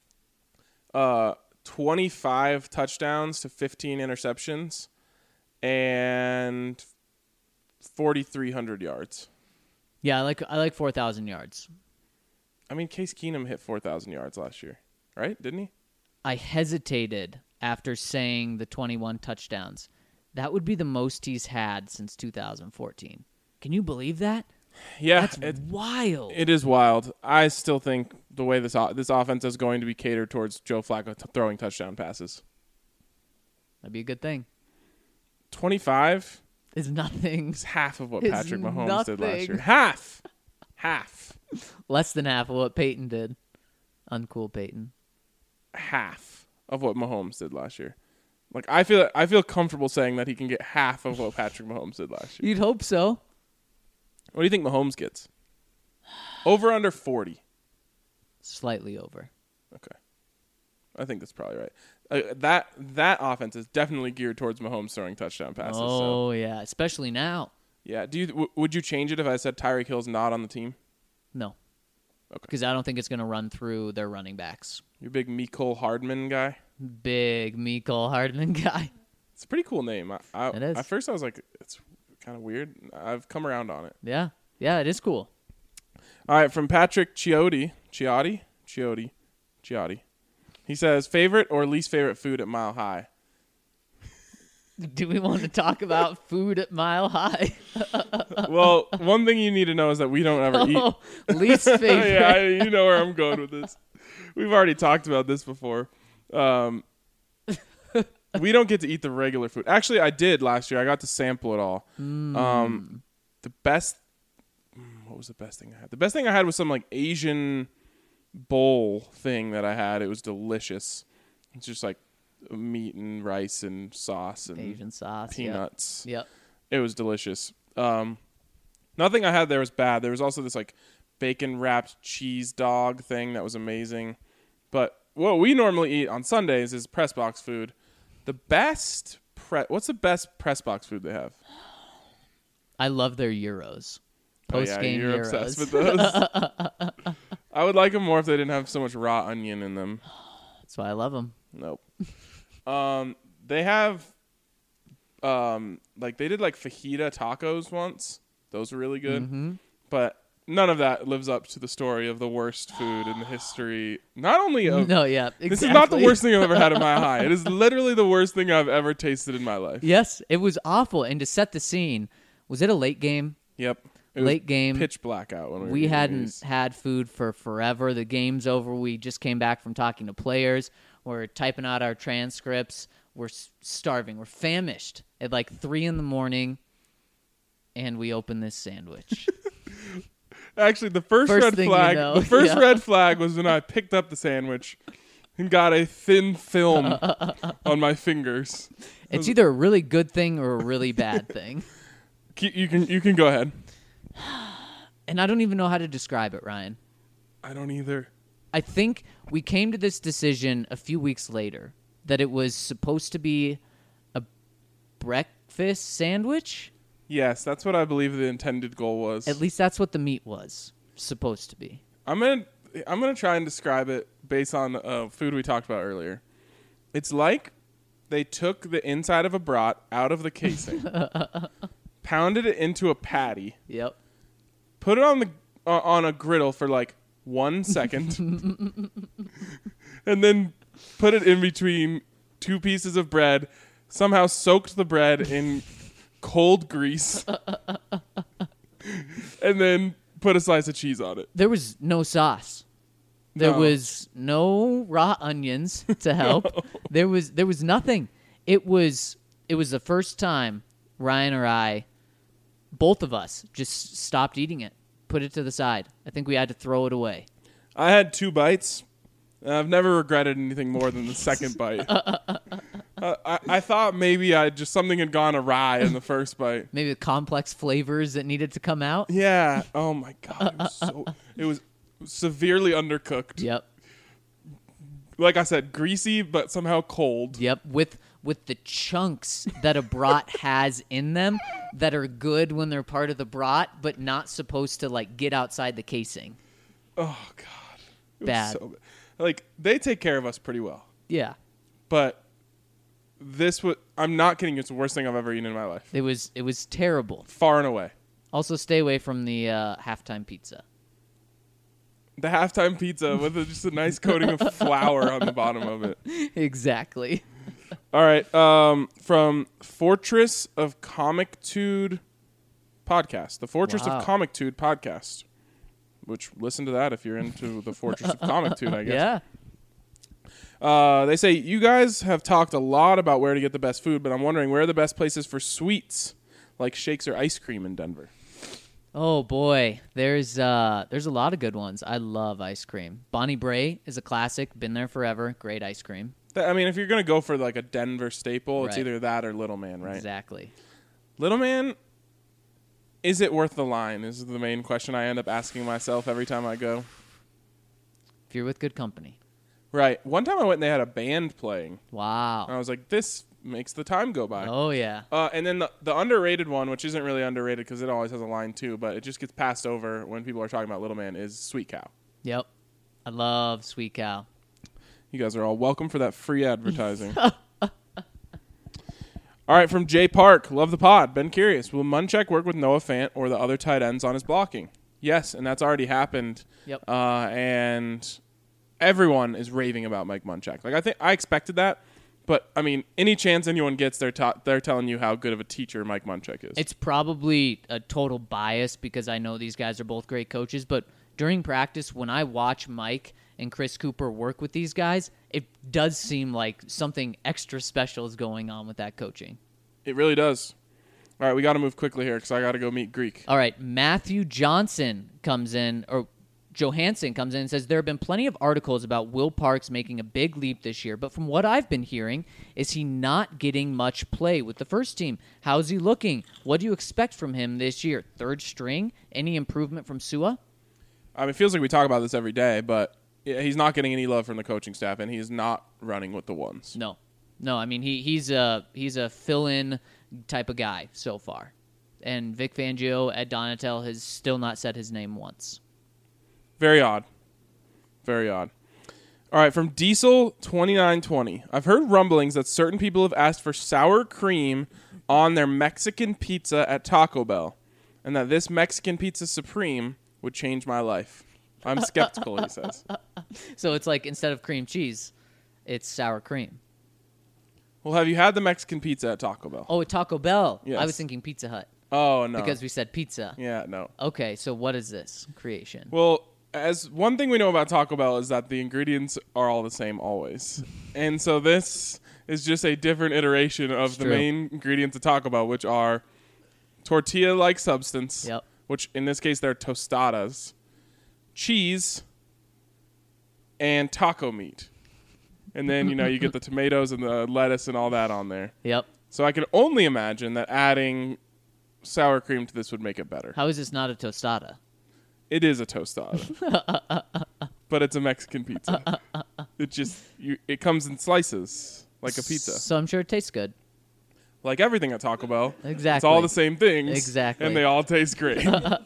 25 touchdowns to 15 interceptions and 4,300 yards. Yeah, I like 4,000 yards. I mean, Case Keenum hit 4,000 yards last year, right? Didn't he? I hesitated after saying the 21 touchdowns. That would be the most he's had since 2014. Can you believe that? Yeah, That's wild. It is wild. I still think the way this offense is going to be catered towards Joe Flacco throwing touchdown passes. That'd be a good thing. 25 Is nothing. is half of what Is Patrick Mahomes did last nothing. year. Half. Less than half of what Peyton did. Uncool Peyton. Half of what Mahomes did last year. Like I feel comfortable saying that he can get half of what Patrick Mahomes did last year. You'd hope so. What do you think Mahomes gets? Over under 40. Slightly over. Okay. I think that's probably right. That offense is definitely geared towards Mahomes throwing touchdown passes. Oh, So. yeah. Especially now. Yeah. Would you change it if I said Tyreek Hill's not on the team? No. Okay. Because I don't think it's going to run through their running backs. You big Mecole Hardman guy? Big Mecole Hardman guy. It's a pretty cool name. It is. At first I was like, it's kind of weird. I've come around on it. Yeah. Yeah, it is cool. All right, from Patrick Chiotti. He says, favorite or least favorite food at Mile High? Do we want to talk about food at Mile High? Well, one thing you need to know is that we don't ever eat. Least favorite. Yeah, you know where I'm going with this. We've already talked about this before. We don't get to eat the regular food. Actually, I did last year. I got to sample it all. The best... What was the best thing I had? The best thing I had was some like Asian bowl thing that I had. It was delicious. It's just like meat and rice and sauce and Asian sauce. peanuts. Yep. It was delicious. Nothing I had there was bad. There was also this like bacon wrapped cheese dog thing that was amazing. But what we normally eat on Sundays is press box food. The best what's the best press box food they have? I love their Euros. Oh, yeah, Post-game you're Euros. obsessed with those. I would like them more if they didn't have so much raw onion in them. That's why I love them. Nope. They have, like they did like fajita tacos once. Those were really good. Mm-hmm. But none of that lives up to the story of the worst food in the history. Not only of No, yeah, exactly. This is not the worst thing I've ever had in my high. It is literally the worst thing I've ever tasted in my life. Yes, it was awful. And to set the scene, was it a late game? Yep. It was Late game. pitch black out when We were hadn't these. had food for forever. The game's over. We just came back from talking to players. We're typing out our transcripts. We're starving. We're famished at like 3 a.m, and we open this sandwich. Actually, the first First red thing you flag. know, The first yeah. red flag was when I picked up the sandwich and got a thin film on my fingers. It's either a really good thing or a really bad thing. You can go ahead. And I don't even know how to describe it, Ryan. I don't either. I think we came to this decision a few weeks later that it was supposed to be a breakfast sandwich. Yes, that's what I believe the intended goal was. At least that's what the meat was supposed to be. I'm gonna try and describe it based on food we talked about earlier. It's like they took the inside of a brat out of the casing, pounded it into a patty, Yep. put it on a griddle for like 1 second, and then put it in between 2 pieces of bread. Somehow soaked the bread in cold grease, and then put a slice of cheese on it. There was no sauce. There No. was no raw onions to help. No. There was nothing. It was the first time Ryan or I both of us just stopped eating it, put it to the side. I think we had to throw it away. I had 2 bites. I've never regretted anything more than the second bite. I thought maybe something had gone awry in the first bite. Maybe the complex flavors that needed to come out. Yeah. Oh my God. It was severely undercooked. Yep. Like I said, greasy but somehow cold. Yep. With the chunks that a brat has in them that are good when they're part of the brat, but not supposed to like get outside the casing. Oh God. It was Bad. so bad. Like, they take care of us pretty well. Yeah. But I'm not kidding, it's the worst thing I've ever eaten in my life. It was terrible. Far and away. Also, stay away from the halftime pizza. The halftime pizza with just a nice coating of flour on the bottom of it. Exactly. All right. From Fortress of Comictude podcast. The Fortress Wow. of Comictude podcast. Which, listen to that if you're into the Fortress of Comictude, I guess. Yeah. They say, you guys have talked a lot about where to get the best food, but I'm wondering where are the best places for sweets, like shakes or ice cream in Denver? Oh boy, there's a lot of good ones. I love ice cream. Bonnie Bray is a classic. Been there forever. Great ice cream. I mean, if you're going to go for like a Denver staple, it's Right. either that or Little Man, right? Exactly. Little Man, is it worth the line? Is the main question I end up asking myself every time I go. If you're with good company. Right. One time I went and they had a band playing. Wow. And I was like, this makes the time go by. Oh yeah. And then the underrated one, which isn't really underrated because it always has a line too, but it just gets passed over when people are talking about Little Man, is Sweet Cow. Yep. I love Sweet Cow. You guys are all welcome for that free advertising. All right, from Jay Park. Love the pod. Been curious. Will Munchak work with Noah Fant or the other tight ends on his blocking? Yes, and that's already happened. Yep. And everyone is raving about Mike Munchak. Like I expected that, but I mean, any chance anyone gets, they're telling you how good of a teacher Mike Munchak is. It's probably a total bias because I know these guys are both great coaches, but during practice, when I watch Mike and Chris Cooper work with these guys, it does seem like something extra special is going on with that coaching. It really does. All right, we got to move quickly here because I got to go meet Greek. All right, Matthew Johansson comes in and says, there have been plenty of articles about Will Parks making a big leap this year, but from what I've been hearing, is he not getting much play with the first team? How's he looking? What do you expect from him this year? Third string? Any improvement from Sua? I mean, it feels like we talk about this every day, but he's not getting any love from the coaching staff, and he's not running with the ones. No. I mean, he's a fill-in type of guy so far. And Vic Fangio, Ed Donatel has still not said his name once. Very odd. Very odd. All right, from Diesel2920. I've heard rumblings that certain people have asked for sour cream on their Mexican pizza at Taco Bell, and that this Mexican Pizza Supreme would change my life. I'm skeptical, he says. So it's like instead of cream cheese, it's sour cream. Well, have you had the Mexican pizza at Taco Bell? Oh, at Taco Bell. Yes. I was thinking Pizza Hut. Oh, no. Because we said pizza. Yeah, no. Okay, so what is this creation? Well, as one thing we know about Taco Bell is that the ingredients are all the same always. And so this is just a different iteration of It's the true. main ingredients of Taco Bell, which are tortilla-like substance, Yep. which in this case they're tostadas, cheese, and taco meat. And then, you get the tomatoes and the lettuce and all that on there. Yep. So I can only imagine that adding sour cream to this would make it better. How is this not a tostada? It is a tostada. But it's a Mexican pizza. It comes in slices like a pizza. So I'm sure it tastes good. Like everything at Taco Bell. Exactly. It's all the same things. Exactly. And they all taste great.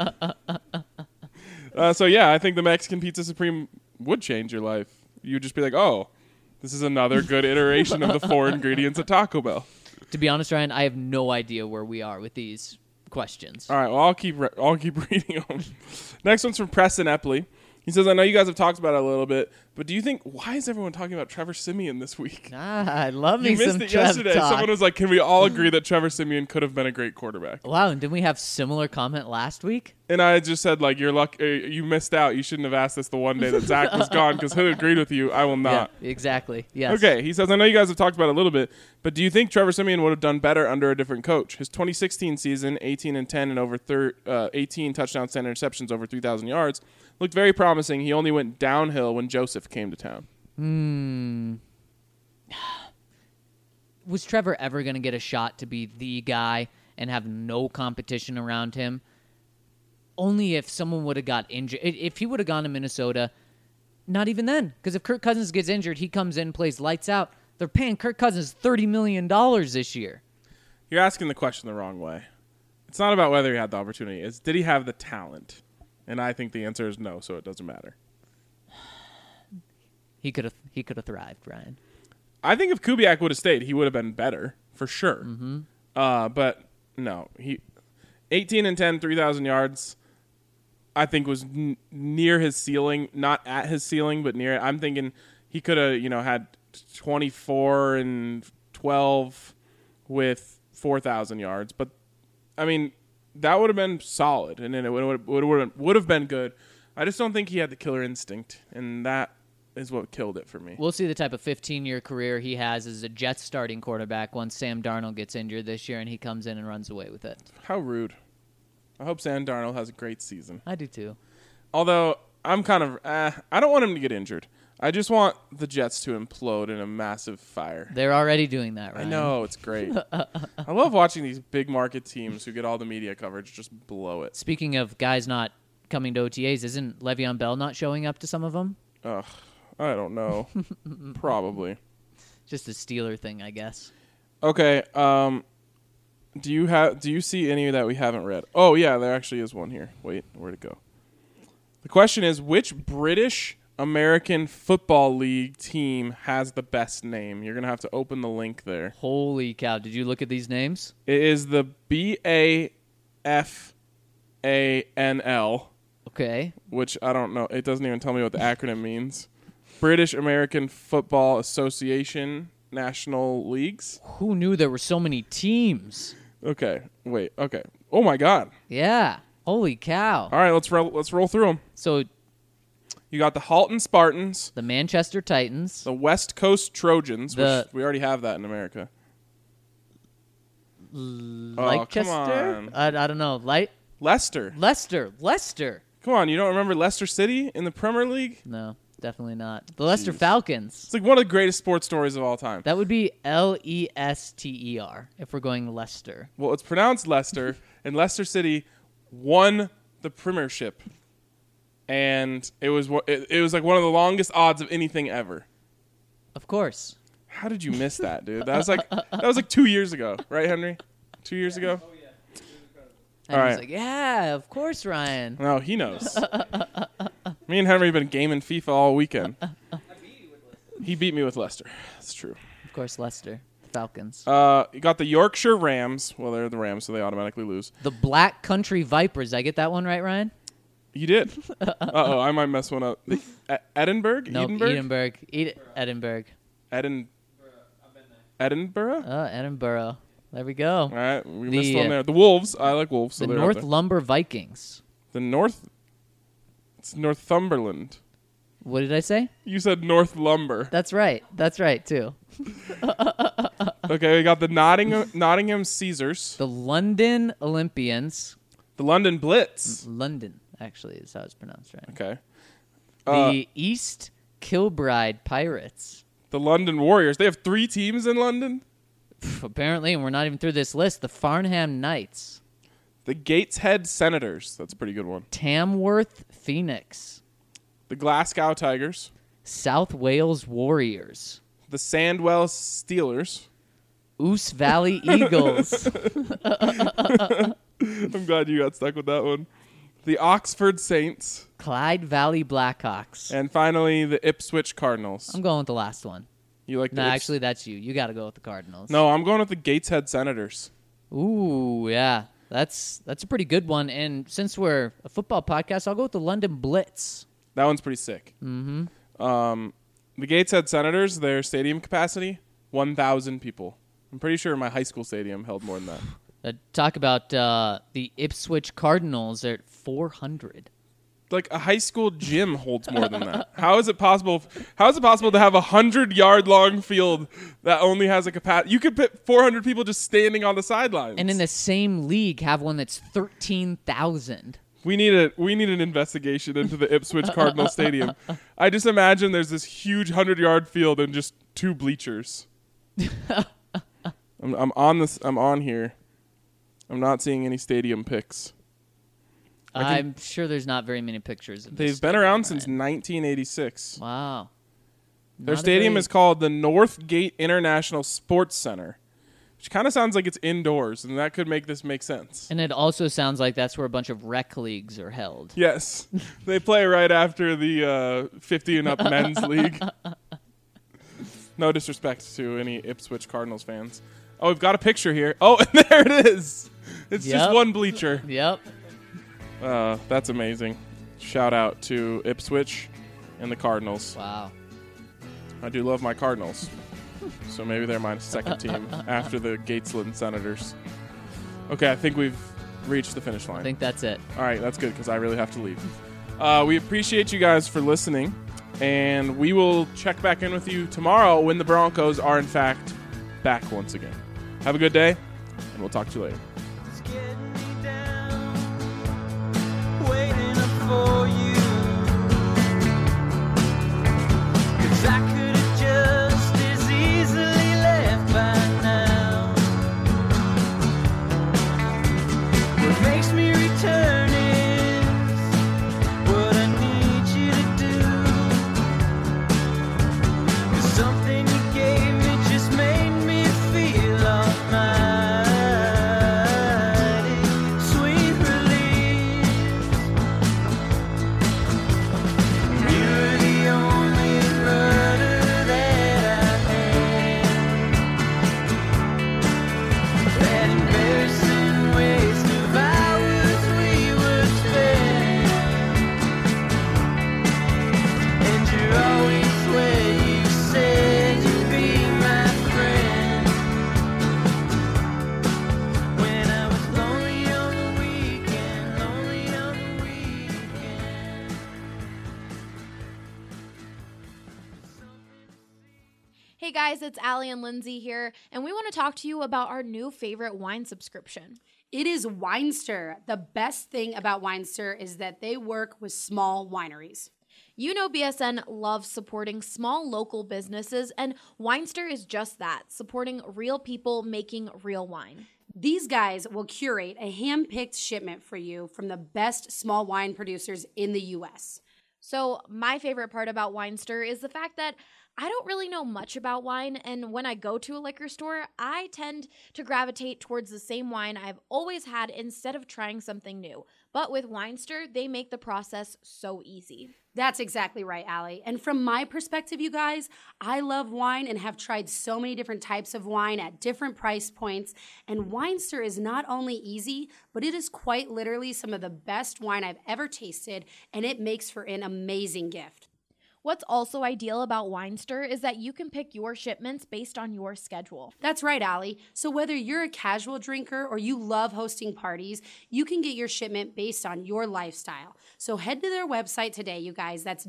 So yeah, I think the Mexican Pizza Supreme would change your life. You'd just be like, oh, this is another good iteration of the 4 ingredients at Taco Bell. To be honest, Ryan, I have no idea where we are with these questions. All right, well, I'll keep reading them. Next one's from Preston Epley. He says, I know you guys have talked about it a little bit, But do you think, why is everyone talking about Trevor Siemian this week? I love me You missed some it Trev yesterday. talk. Someone was like, can we all agree that Trevor Siemian could have been a great quarterback? Wow, and didn't we have similar comment last week? And I just said, like, you're you missed out. You shouldn't have asked this the one day that Zach was gone because he agreed with you. I will not. Yeah, exactly. Yes. Okay, he says, I know you guys have talked about it a little bit, but do you think Trevor Siemian would have done better under a different coach? His 2016 season, 18-10 and over 18 touchdowns, 10 interceptions, over 3,000 yards, looked very promising. He only went downhill when Joseph came to town. Was Trevor ever going to get a shot to be the guy and have no competition around him? Only if someone would have got injured. If he would have gone to Minnesota, not even then. Because if Kirk Cousins gets injured, he comes in, plays lights out. They're paying Kirk Cousins $30 million this year. You're asking the question the wrong way. It's not about whether he had the opportunity. It's did he have the talent? And I think the answer is no, so it doesn't matter. He could have thrived, Ryan. I think if Kubiak would have stayed, he would have been better for sure. Mm-hmm. But no, he 18-10, 3,000 yards. I think was near his ceiling, not at his ceiling, but near it. I'm thinking he could have, had 24 and 12 with 4,000 yards. But I mean, that would have been solid, and then it would have been good. I just don't think he had the killer instinct, and that is what killed it for me. We'll see the type of 15-year career he has as a Jets starting quarterback once Sam Darnold gets injured this year and he comes in and runs away with it. How rude. I hope Sam Darnold has a great season. I do too. Although, I'm kind of, I don't want him to get injured. I just want the Jets to implode in a massive fire. They're already doing that, right? I know, it's great. I love watching these big market teams who get all the media coverage just blow it. Speaking of guys not coming to OTAs, isn't Le'Veon Bell not showing up to some of them? Ugh, I don't know. Probably. Just a Steeler thing, I guess. Okay, do you see any that we haven't read? Oh, yeah, there actually is one here. Wait, where'd it go? The question is, which British American Football League team has the best name? You're going to have to open the link there. Holy cow. Did you look at these names? It is the BAFANL, Okay. which I don't know. It doesn't even tell me what the acronym means. British American Football Association National Leagues. Who knew there were so many teams? Okay, wait. Okay. Oh my God. Yeah. Holy cow. All right, let's roll through them. So You got the Halton Spartans, the Manchester Titans, the West Coast Trojans, The- which we already have that in America. Leicester? come on. I don't know. Leicester. Leicester. Come on, you don't remember Leicester City in the Premier League? No, definitely not. The Leicester Jeez. Falcons. It's like one of the greatest sports stories of all time. That would be Lester if we're going Leicester. Well, it's pronounced Leicester, and Leicester City won the Premiership, and it was like one of the longest odds of anything ever. Of course. How did you miss that, dude? That was like 2 years ago, right, Henry? 2 years ago. And All he's right. like, yeah, of course, Ryan. No, he knows. Me and Henry have been gaming FIFA all weekend. He beat me with Leicester. That's true. Of course, Leicester. The Falcons. You got the Yorkshire Rams. Well, they're the Rams, so they automatically lose. The Black Country Vipers. Did I get that one right, Ryan? You did. Uh-oh, I might mess one up. Edinburgh? No, Edinburgh? Edinburgh. Edinburgh? Edinburgh. There we go. All right, we missed The, one there. The Wolves. I like Wolves. So The they're North up there. Lumber Vikings. The North. It's Northumberland. What did I say? You said North Lumber. That's right. That's right, too. Okay, we got the Nottingham Caesars. The London Olympians. The London Blitz. London, actually, is how it's pronounced, right? Okay. The East Kilbride Pirates. The London Warriors. They have 3 teams in London. Apparently, and we're not even through this list, the Farnham Knights. The Gateshead Senators. That's a pretty good one. Tamworth Phoenix. The Glasgow Tigers. South Wales Warriors. The Sandwell Steelers. Ouse Valley Eagles. I'm glad you got stuck with that one. The Oxford Saints. Clyde Valley Blackhawks. And finally, the Ipswich Cardinals. I'm going with the last one. You like No, the actually, that's you. You got to go with the Cardinals. No, I'm going with the Gateshead Senators. Ooh, yeah. That's a pretty good one. And since we're a football podcast, I'll go with the London Blitz. That one's pretty sick. Mm-hmm. The Gateshead Senators, their stadium capacity, 1,000 people. I'm pretty sure my high school stadium held more than that. Talk about the Ipswich Cardinals. They're at 400. Like a high school gym holds more than that. How is it possible? How is it possible to have a 100-yard long field that only has a capacity? You could put 400 people just standing on the sidelines. And in the same league, have one that's 13,000. We need an investigation into the Ipswich Cardinal Stadium. I just imagine there's this huge 100-yard field and just 2 bleachers. I'm on here. I'm not seeing any stadium pics. I'm sure there's not very many pictures of this. They've been around since 1986. Wow. Their stadium is called the Northgate International Sports Center, which kind of sounds like it's indoors, and that could make this make sense. And it also sounds like that's where a bunch of rec leagues are held. Yes. They play right after the 50 and up men's league. No disrespect to any Ipswich Cardinals fans. Oh, we've got a picture here. Oh, and there it is. It's just one bleacher. Yep. That's amazing. Shout out to Ipswich and the Cardinals. Wow. I do love my Cardinals. So maybe they're my second team after the Gatesland Senators. Okay, I think we've reached the finish line. I think that's it. All right, that's good because I really have to leave. We appreciate you guys for listening, and we will check back in with you tomorrow when the Broncos are, in fact, back once again. Have a good day, and we'll talk to you later. It's getting me down, waiting up for you. 'Cause I could have just as easily left by now. What makes me return is what I need you to do. 'Cause something you gave me just made me feel almighty. Sweet release. You're the only rudder that I had. That embarrassing waste of hours we would spend. And you're always where you said you'd be my friend. When I was lonely on the weekend, lonely on the weekend. Hey guys, it's Allie and Lindsay here, and we want to talk to you about our new favorite wine subscription. It is Winester. The best thing about Winester is that they work with small wineries. You know BSN loves supporting small local businesses, and Winester is just that, supporting real people making real wine. These guys will curate a hand-picked shipment for you from the best small wine producers in the U.S. So my favorite part about Winester is the fact that I don't really know much about wine, and when I go to a liquor store, I tend to gravitate towards the same wine I've always had instead of trying something new. But with Winester, they make the process so easy. That's exactly right, Allie. And from my perspective, you guys, I love wine and have tried so many different types of wine at different price points. And Winester is not only easy, but it is quite literally some of the best wine I've ever tasted, and it makes for an amazing gift. What's also ideal about Winester is that you can pick your shipments based on your schedule. That's right, Allie. So whether you're a casual drinker or you love hosting parties, you can get your shipment based on your lifestyle. So head to their website today, you guys. That's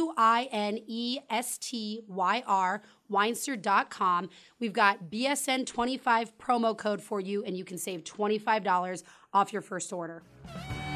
WINESTYR, Winester.com. We've got BSN25 promo code for you, and you can save $25 off your first order.